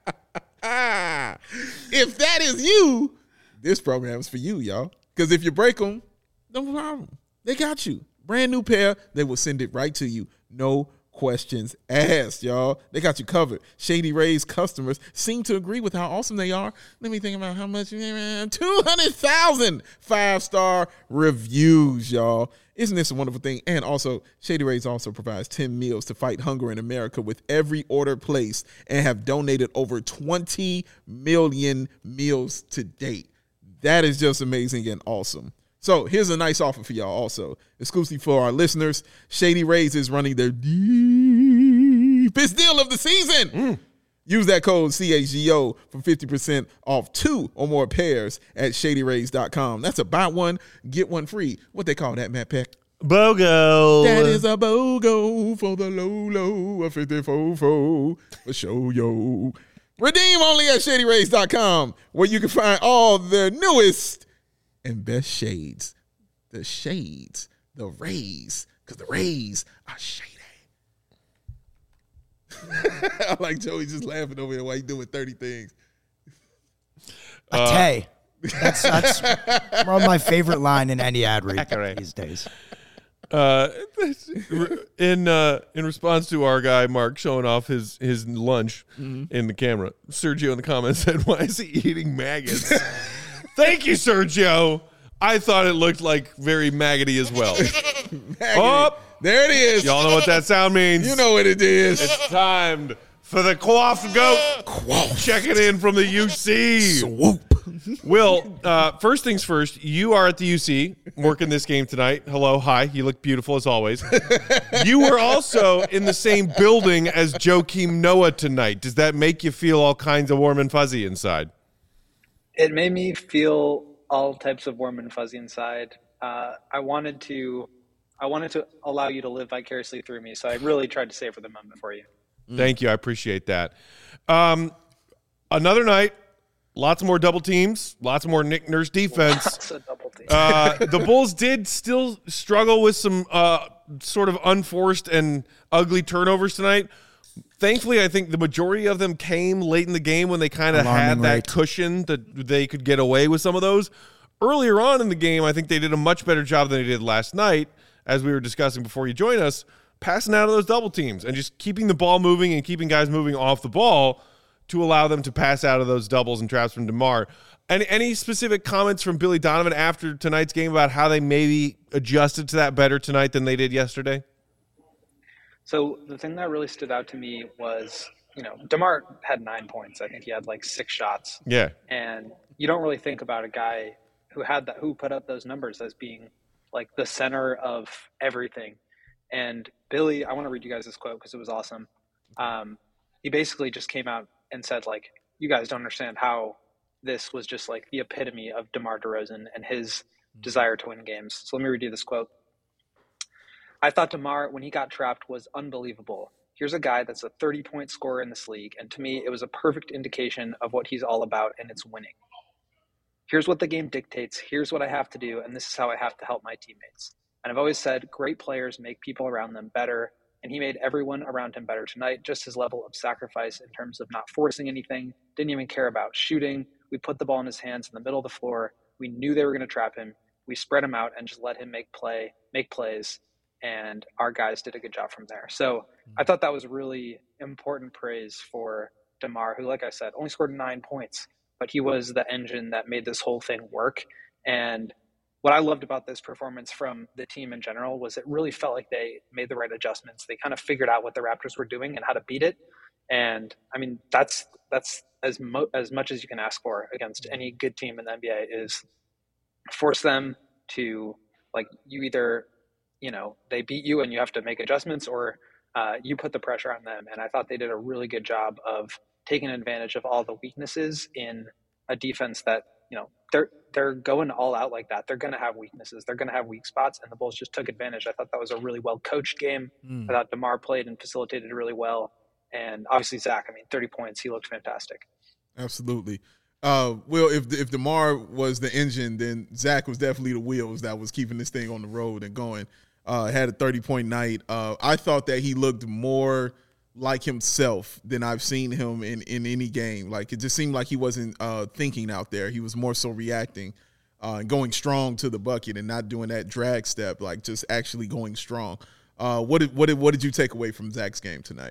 Speaker 2: If that is you, this program is for you, y'all. Because if you break them, no problem. They got you. Brand new pair, they will send it right to you. No questions asked, y'all. They got you covered. Shady Rays customers seem to agree with how awesome they are. Let me think about how much. 200,000 5-star reviews, y'all. Isn't this a wonderful thing? And also, Shady Rays also provides 10 meals to fight hunger in America with every order placed and have donated over 20 million meals to date. That is just amazing and awesome. So here's a nice offer for y'all also. Exclusively for our listeners, Shady Rays is running their deepest deal of the season. Use that code CHGO for 50% off 2 or more pairs at ShadyRays.com. That's a buy one, get one free. What they call that, Matt Peck?
Speaker 1: BOGO.
Speaker 2: That is a BOGO for the low, a 54 for show, yo. Redeem only at ShadyRays.com, where you can find all the newest and best shades. The shades, the rays, because the rays are shady. I like Joey just laughing over here while he doing 30 things.
Speaker 4: Tay. That's one of my favorite line in any ad read these days.
Speaker 1: In response to our guy Mark showing off his lunch in the camera, Sergio in the comments said, "Why is he eating maggots?" Thank you, Sergio. I thought it looked like very maggoty as well. Oh,
Speaker 2: there it is.
Speaker 1: Y'all know what that sound means.
Speaker 2: You know what it is.
Speaker 1: It's time for the Quaff Goat. Checking in from the UC.
Speaker 2: Swoop.
Speaker 1: Will, first things first, you are at the UC working this game tonight. Hello, hi. You look beautiful as always. You were also in the same building as Joakim Noah tonight. Does that make you feel all kinds of warm and fuzzy inside?
Speaker 5: It made me feel all types of warm and fuzzy inside. I wanted to allow you to live vicariously through me, so I really tried to savor the moment for you.
Speaker 1: Thank you. I appreciate that. Another night, lots more double teams, lots more Nick Nurse defense.
Speaker 5: Lots of double teams.
Speaker 1: The Bulls did still struggle with some sort of unforced and ugly turnovers tonight. Thankfully, I think the majority of them came late in the game when they kind of had that cushion that they could get away with some of those. Earlier on in the game, I think they did a much better job than they did last night, as we were discussing before you joined us, passing out of those double teams and just keeping the ball moving and keeping guys moving off the ball to allow them to pass out of those doubles and traps from DeMar. Any specific comments from Billy Donovan after tonight's game about how they maybe adjusted to that better tonight than they did yesterday?
Speaker 5: So the thing that really stood out to me was, DeMar had 9 points. I think he had like 6 shots.
Speaker 1: Yeah.
Speaker 5: And you don't really think about a guy who put up those numbers as being like the center of everything. And Billy, I want to read you guys this quote because it was awesome. He basically just came out and said, like, you guys don't understand how this was just like the epitome of DeMar DeRozan and his desire to win games. So let me read you this quote. I thought DeMar, when he got trapped, was unbelievable. Here's a guy that's a 30-point scorer in this league, and to me, it was a perfect indication of what he's all about, and it's winning. Here's what the game dictates, here's what I have to do, and this is how I have to help my teammates. And I've always said great players make people around them better, and he made everyone around him better tonight. Just his level of sacrifice in terms of not forcing anything, didn't even care about shooting. We put the ball in his hands in the middle of the floor. We knew they were going to trap him. We spread him out and just let him make plays, and our guys did a good job from there. So I thought that was really important praise for DeMar, who, like I said, only scored 9 points, but he was the engine that made this whole thing work. And what I loved about this performance from the team in general was it really felt like they made the right adjustments. They kind of figured out what the Raptors were doing and how to beat it. And I mean, that's as much as you can ask for against any good team in the NBA, is force them to, like, you either, they beat you and you have to make adjustments, or you put the pressure on them. And I thought they did a really good job of taking advantage of all the weaknesses in a defense that, they're going all out like that. They're going to have weaknesses. They're going to have weak spots, and the Bulls just took advantage. I thought that was a really well-coached game. I thought DeMar played and facilitated really well. And obviously Zach, 30 points. He looked fantastic.
Speaker 2: Absolutely. Will, if DeMar was the engine, then Zach was definitely the wheels that was keeping this thing on the road and going. Had a 30-point night. I thought that he looked more like himself than I've seen him in any game. Like, it just seemed like he wasn't thinking out there. He was more so reacting and going strong to the bucket and not doing that drag step, like just actually going strong. What did you take away from Zach's game tonight?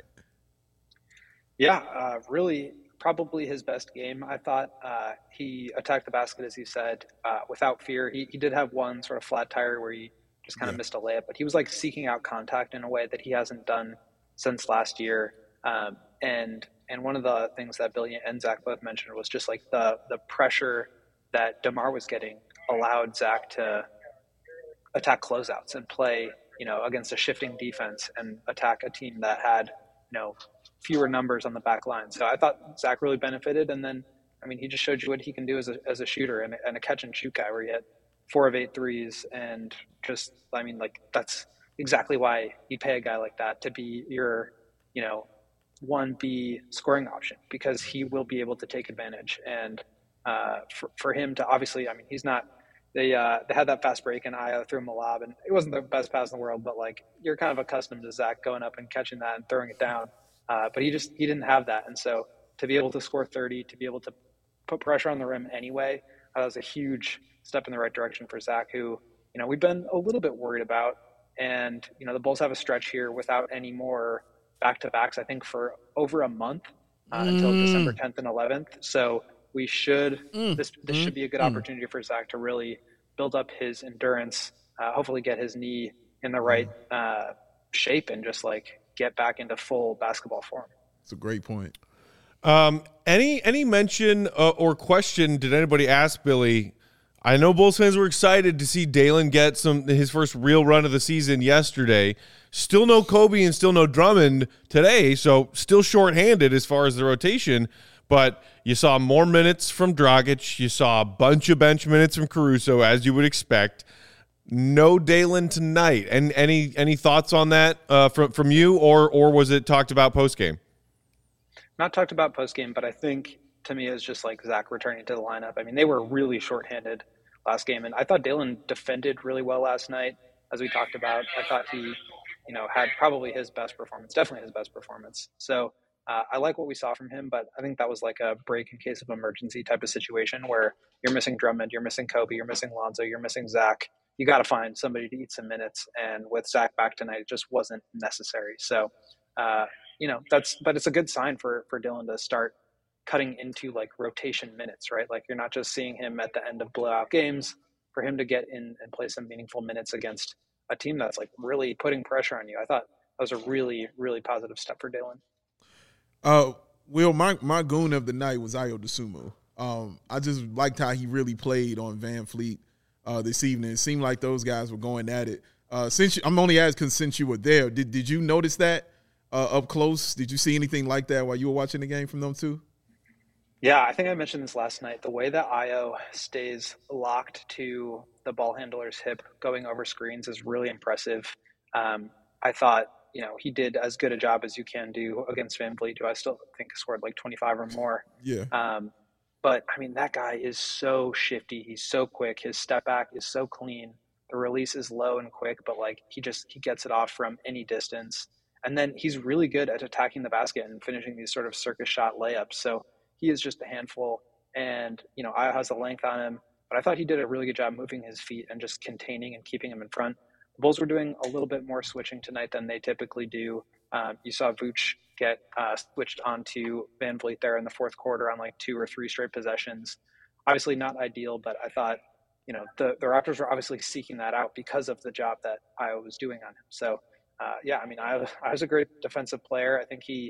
Speaker 5: Yeah, really probably his best game. I thought he attacked the basket, as he said, without fear. He did have one sort of flat tire where he just kind of missed a layup, but he was like seeking out contact in a way that he hasn't done since last year. And one of the things that Billy and Zach both mentioned was just like the pressure that DeMar was getting allowed Zach to attack closeouts and play, against a shifting defense and attack a team that had, fewer numbers on the back line. So I thought Zach really benefited. And then, he just showed you what he can do as a shooter and a catch and shoot guy, where he had 4 of 8 threes. And just, that's exactly why you pay a guy like that to be your, 1B scoring option, because he will be able to take advantage. And for him to, obviously, he's not, they had that fast break and Io threw him a lob, and it wasn't the best pass in the world, but like, you're kind of accustomed to Zach going up and catching that and throwing it down. But he didn't have that. And so to be able to score 30, to be able to put pressure on the rim anyway, that was a huge step in the right direction for Zach, who, we've been a little bit worried about. And, the Bulls have a stretch here without any more back-to-backs, I think, for over a month until December 10th and 11th. So we should, this should be a good opportunity for Zach to really build up his endurance, hopefully get his knee in the right shape, and just like get back into full basketball form.
Speaker 2: It's a great point.
Speaker 1: Any mention or question did anybody ask Billy? I know Bulls fans were excited to see Dalen get his first real run of the season yesterday. Still no Kobe and still no Drummond today, so still shorthanded as far as the rotation. But you saw more minutes from Dragic. You saw a bunch of bench minutes from Caruso, as you would expect. No Dalen tonight. And any thoughts on that from you, or was it talked about post-game?
Speaker 5: Not talked about post-game, but I think to me it's just like Zach returning to the lineup. I mean, they were really shorthanded last game, and I thought Dalen defended really well last night, as we talked about. I thought he, had probably his best performance, definitely his best performance. So I like what we saw from him, but I think that was like a break in case of emergency type of situation where you're missing Drummond, you're missing Kobe, you're missing Lonzo, you're missing Zach. You got to find somebody to eat some minutes, and with Zach back tonight, it just wasn't necessary. So, but it's a good sign for Dalen to start cutting into like rotation minutes, right? Like you're not just seeing him at the end of blowout games. For him to get in and play some meaningful minutes against a team that's like really putting pressure on you, I thought that was a really, really positive step for Dalen.
Speaker 2: Will, my goon of the night was Ayo Dosunmu. I just liked how he really played on Van Fleet this evening. It seemed like those guys were going at it. I'm only asking since you were there. Did you notice that up close? Did you see anything like that while you were watching the game from them too?
Speaker 5: Yeah, I think I mentioned this last night. The way that Ayo stays locked to the ball handler's hip going over screens is really impressive. I thought, he did as good a job as you can do against Van Vliet, who I still think scored like 25 or more.
Speaker 2: Yeah.
Speaker 5: But, I mean, that guy is so shifty. He's so quick. His step back is so clean. The release is low and quick, but, like, he gets it off from any distance. And then he's really good at attacking the basket and finishing these sort of circus shot layups. So he is just a handful. And, Ayo has the length on him. But I thought he did a really good job moving his feet and just containing and keeping him in front. The Bulls were doing a little bit more switching tonight than they typically do. You saw Vooch get switched onto Van Vliet there in the fourth quarter on like 2 or 3 straight possessions. Obviously not ideal, but I thought, the Raptors were obviously seeking that out because of the job that Ayo was doing on him. So, Ayo was a great defensive player. I think he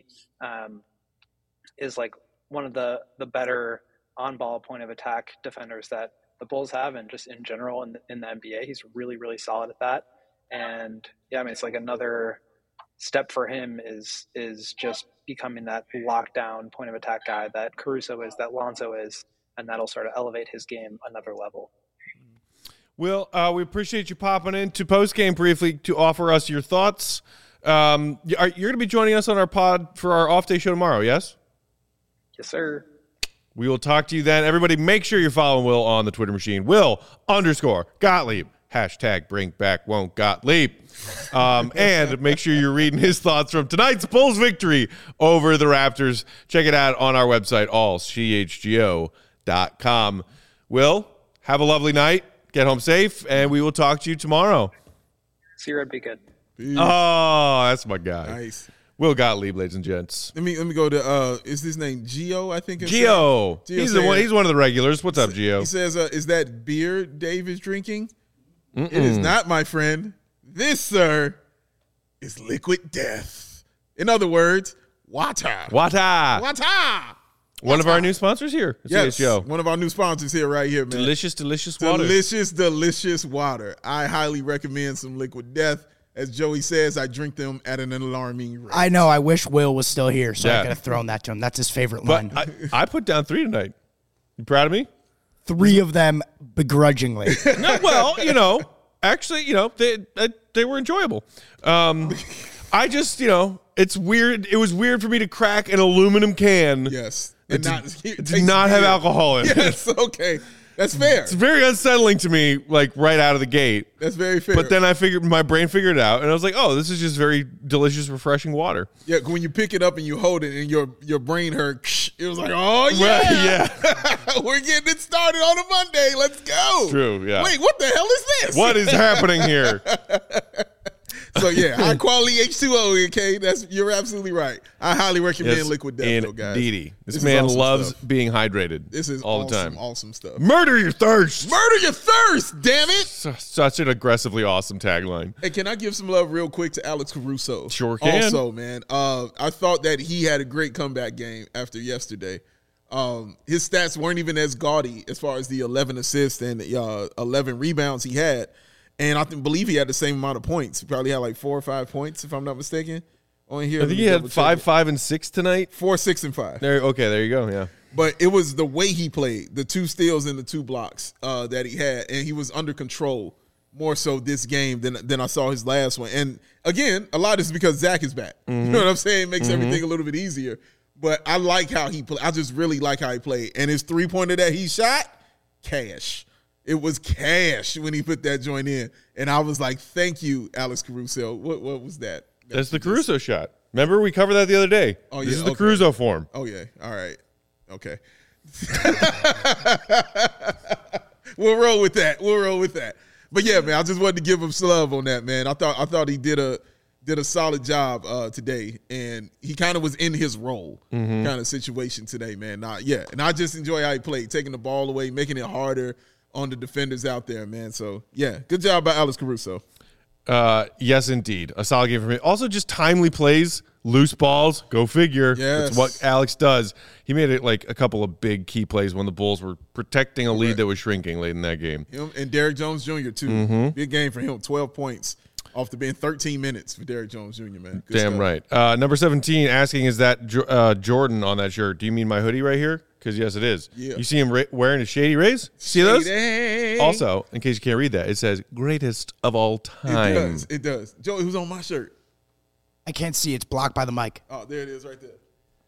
Speaker 5: is like one of the better on-ball point of attack defenders that the Bulls have, and just in general in the NBA. He's really, really solid at that. And it's like another step for him is just becoming that lockdown point of attack guy that Caruso is, that Lonzo is, and that'll sort of elevate his game another level.
Speaker 1: Will, we appreciate you popping into postgame briefly to offer us your thoughts. You're going to be joining us on our pod for our off-day show tomorrow, yes?
Speaker 5: Yes, sir.
Speaker 1: We will talk to you then. Everybody, make sure you're following Will on the Twitter machine. Will_Gottlieb. # bring back won't Gottlieb. And make sure you're reading his thoughts from tonight's Bulls victory over the Raptors. Check it out on our website, allchgo.com. Will, have a lovely night. Get home safe, and we will talk to you tomorrow.
Speaker 5: See you, be good.
Speaker 2: Peace.
Speaker 1: Oh, that's my guy.
Speaker 2: Nice.
Speaker 1: Will Gottlieb, ladies and gents.
Speaker 2: Let me go to is his name Gio? I think it's
Speaker 1: Gio. He's one of the regulars. What's up, Gio?
Speaker 2: He says, "Is that beer Dave is drinking?" It is not, my friend. This, sir, is liquid death. In other words, water.
Speaker 1: Water. One of our new sponsors here.
Speaker 2: Yes, one of our new sponsors here, right here, man.
Speaker 1: Delicious water.
Speaker 2: Delicious water. I highly recommend some liquid death. As Joey says, I drink them at an alarming rate.
Speaker 4: I know. I wish Will was still here, so I could have thrown that to him. That's his favorite line.
Speaker 1: I put down 3 tonight. You proud of me?
Speaker 4: 3 of them begrudgingly.
Speaker 1: No, well, actually, they were enjoyable. I just, it's weird. It was weird for me to crack an aluminum can.
Speaker 2: Yes.
Speaker 1: It did not have alcohol in it.
Speaker 2: Yes, okay. That's fair.
Speaker 1: It's very unsettling to me, like right out of the gate.
Speaker 2: That's very fair.
Speaker 1: But then my brain figured it out, and I was like, oh, this is just very delicious, refreshing water.
Speaker 2: Yeah, when you pick it up and you hold it and your brain hurt, it was like, oh, yeah.
Speaker 1: Right, yeah.
Speaker 2: We're getting it started on a Monday. Let's go.
Speaker 1: True, yeah.
Speaker 2: Wait, what the hell is this?
Speaker 1: What is happening here?
Speaker 2: So yeah, high quality H2O, okay? You're absolutely right. I highly recommend Liquid Death, though, guys.
Speaker 1: Indeedy. This man
Speaker 2: awesome
Speaker 1: loves
Speaker 2: stuff.
Speaker 1: being hydrated.
Speaker 2: This is
Speaker 1: all
Speaker 2: awesome,
Speaker 1: the time.
Speaker 2: Awesome stuff.
Speaker 1: Murder your thirst.
Speaker 2: Murder your thirst, damn it!
Speaker 1: Such an aggressively awesome tagline.
Speaker 2: Hey, can I give some love real quick to Alex Caruso?
Speaker 1: Sure can.
Speaker 2: Also, man, I thought that he had a great comeback game after yesterday. His stats weren't even as gaudy as far as the 11 assists and 11 rebounds he had. And I believe he had the same amount of points. He probably had like 4 or 5 points, if I'm not mistaken. On here,
Speaker 1: I think he had 5, 5, and 6 tonight.
Speaker 2: 4, 6, and 5.
Speaker 1: There you go. Yeah.
Speaker 2: But it was the way he played, the 2 steals and the 2 blocks that he had, and he was under control more so this game than I saw his last one. And again, a lot is because Zach is back. Mm-hmm. You know what I'm saying? It makes everything a little bit easier. But I like how he played. I just really like how he played. And his 3-pointer that he shot, cash. It was cash when he put that joint in. And I was like, thank you, Alex Caruso. What was that?
Speaker 1: That's the Caruso shot. Remember, we covered that the other day.
Speaker 2: Oh, yeah.
Speaker 1: This is the Caruso form.
Speaker 2: Oh, yeah. All right. Okay. We'll roll with that. But, yeah, man, I just wanted to give him some love on that, man. I thought he did a solid job today, and he kind of was in his role kind of situation today, man. And I just enjoy how he played, taking the ball away, making it harder on the defenders out there, man. So, yeah, good job by Alex Caruso.
Speaker 1: Yes, indeed. A solid game for me. Also, just timely plays, loose balls, go figure.
Speaker 2: Yes.
Speaker 1: That's what Alex does. He made it like a couple of big key plays when the Bulls were protecting a lead that was shrinking late in that game.
Speaker 2: Him and Derrick Jones Jr., too. Big game for him, 12 points. Off the bench, 13 minutes for Derrick Jones Jr., man. Good
Speaker 1: Damn
Speaker 2: stuff.
Speaker 1: right. Number 17 asking, is that Jordan on that shirt? Do you mean my hoodie right here? Because, yes, it is.
Speaker 2: Yeah.
Speaker 1: You see him wearing his Shady Rays? See those?
Speaker 2: Shady.
Speaker 1: Also, in case you can't read that, it says greatest of all time.
Speaker 2: It does. Joey, who's on my shirt?
Speaker 4: I can't see. It's blocked by the mic.
Speaker 2: Oh, there it is right there.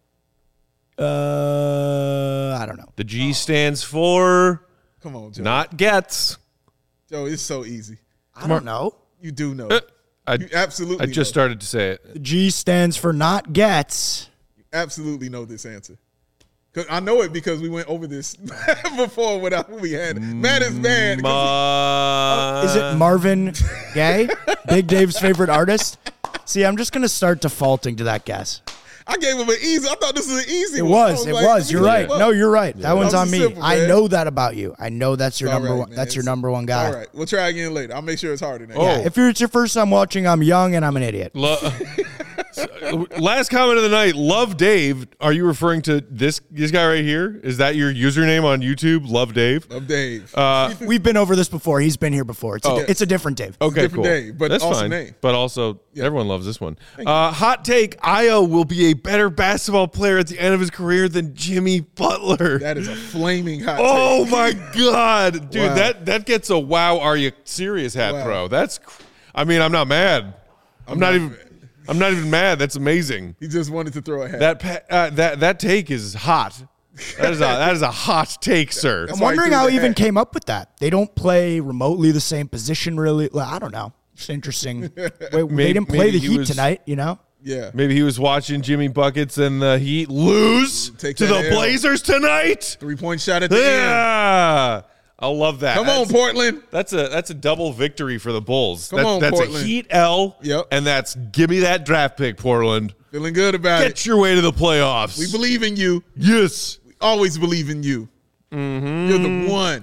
Speaker 4: I don't know.
Speaker 1: The G stands for
Speaker 2: Come on, Joey.
Speaker 1: not gets.
Speaker 2: Joe, it's so easy.
Speaker 4: I don't know.
Speaker 2: You do know.
Speaker 1: I
Speaker 2: You absolutely
Speaker 1: I just
Speaker 2: know.
Speaker 1: started to say it.
Speaker 4: The G stands for not gets.
Speaker 2: You absolutely know this answer. Cause I know it because we went over this before when we had it. Mad is bad.
Speaker 4: Is it Marvin Gaye? Big Dave's favorite artist? See, I'm just going to start defaulting to that guess.
Speaker 2: I gave him an easy. I thought this was an easy
Speaker 4: It
Speaker 2: one.
Speaker 4: was.
Speaker 2: Like,
Speaker 4: You're right. No, you're right. That one's
Speaker 2: That
Speaker 4: on
Speaker 2: was
Speaker 4: me.
Speaker 2: simple,
Speaker 4: I
Speaker 2: man.
Speaker 4: know that about you. I know that's your
Speaker 2: All
Speaker 4: number
Speaker 2: right,
Speaker 4: one.
Speaker 2: man.
Speaker 4: That's your number one guy.
Speaker 2: All right. We'll try again later. I'll make sure it's harder next
Speaker 1: Oh.
Speaker 2: time.
Speaker 4: If it's your first time watching, I'm young and I'm an idiot.
Speaker 1: Last comment of the night. Love Dave. Are you referring to this guy right here? Is that your username on YouTube? Love Dave.
Speaker 2: Love Dave.
Speaker 4: We've been over this before. He's been here before. It's a different Dave.
Speaker 1: Okay,
Speaker 2: different
Speaker 1: cool.
Speaker 2: Dave, but
Speaker 1: that's
Speaker 2: awesome
Speaker 1: fine.
Speaker 2: name.
Speaker 1: But also, everyone loves this one. Hot take: Io will be a better basketball player at the end of his career than Jimmy Butler.
Speaker 2: That is a flaming hot
Speaker 1: Oh
Speaker 2: take.
Speaker 1: my god, dude!
Speaker 2: Wow.
Speaker 1: That gets a wow. Are you serious hat
Speaker 2: Wow.
Speaker 1: throw? I mean, I'm not mad. I'm not even mad. That's amazing.
Speaker 2: He just wanted to throw a hat.
Speaker 1: That take is hot. That is a hot take, sir.
Speaker 2: That's
Speaker 4: I'm
Speaker 2: why he
Speaker 4: wondering
Speaker 2: threw
Speaker 4: how
Speaker 2: the
Speaker 4: he even
Speaker 2: hat.
Speaker 4: came up with that. They don't play remotely the same position, really. Well, I don't know. It's interesting. They didn't play
Speaker 1: maybe
Speaker 4: the
Speaker 1: he
Speaker 4: Heat
Speaker 1: was-
Speaker 4: tonight, you know?
Speaker 2: Yeah.
Speaker 1: Maybe he was watching Jimmy Buckets and the Heat lose
Speaker 2: Take
Speaker 1: to
Speaker 2: that
Speaker 1: the
Speaker 2: L.
Speaker 1: Blazers tonight.
Speaker 2: 3-point shot at the end.
Speaker 1: Yeah, I love that.
Speaker 2: Come on, Portland.
Speaker 1: That's a double victory for the Bulls.
Speaker 2: Come on,
Speaker 1: that's
Speaker 2: Portland.
Speaker 1: a Heat L.
Speaker 2: Yep.
Speaker 1: And that's give me that draft pick, Portland.
Speaker 2: Feeling good about
Speaker 1: Get
Speaker 2: it.
Speaker 1: your way to the playoffs.
Speaker 2: We believe in you.
Speaker 1: Yes.
Speaker 2: We always believe in you. You're the one.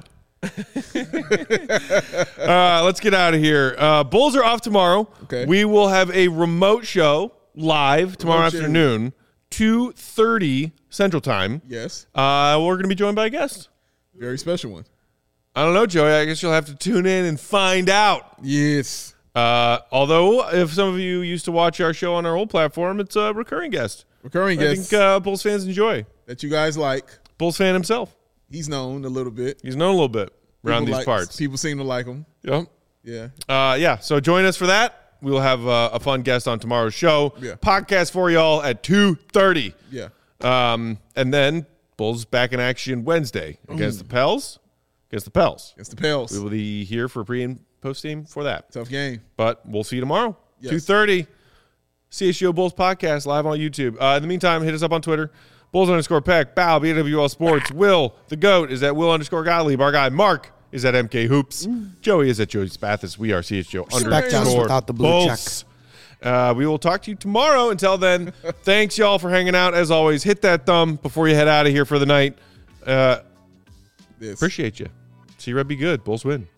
Speaker 1: Let's get out of here. Bulls are off tomorrow.
Speaker 2: Okay.
Speaker 1: We will have a remote show live tomorrow
Speaker 2: Remote show.
Speaker 1: afternoon, 2:30 Central Time.
Speaker 2: Yes.
Speaker 1: We're going to be joined by a guest.
Speaker 2: Very special one.
Speaker 1: I don't know, Joey. I guess you'll have to tune in and find out.
Speaker 2: Yes.
Speaker 1: Although, if some of you used to watch our show on our old platform, it's a recurring guest.
Speaker 2: Recurring
Speaker 1: I
Speaker 2: guest
Speaker 1: think Bulls fans enjoy.
Speaker 2: that you guys like.
Speaker 1: Bulls fan himself.
Speaker 2: He's known a little bit.
Speaker 1: He's known a little bit around
Speaker 2: People
Speaker 1: these
Speaker 2: like-
Speaker 1: parts.
Speaker 2: People seem to like him.
Speaker 1: Yep.
Speaker 2: Yeah.
Speaker 1: Yeah, so join us for that. We will have a fun guest on tomorrow's show.
Speaker 2: Yeah.
Speaker 1: Podcast for y'all at 2:30.
Speaker 2: Yeah.
Speaker 1: And then Bulls back in action Wednesday against the Pels. Against the Pels.
Speaker 2: Against the Pels.
Speaker 1: We will be here for pre and post game for that.
Speaker 2: Tough game.
Speaker 1: But we'll see you tomorrow.
Speaker 2: Yes.
Speaker 1: 2:30. CHGO Bulls podcast live on YouTube. In the meantime, hit us up on Twitter. Bulls_Peck. Bow, BWL Sports. Will, the GOAT, is at Will_Gottlieb. Our guy, Mark, is at MK Hoops. Joey is at Joey Spathis. We are CHGO
Speaker 4: Respect us
Speaker 1: _
Speaker 4: without the blue
Speaker 1: Bulls.
Speaker 4: check.
Speaker 1: We will talk to you tomorrow. Until then, thanks, y'all, for hanging out. As always, hit that thumb before you head out of here for the night. Appreciate you. See Red be good. Bulls win.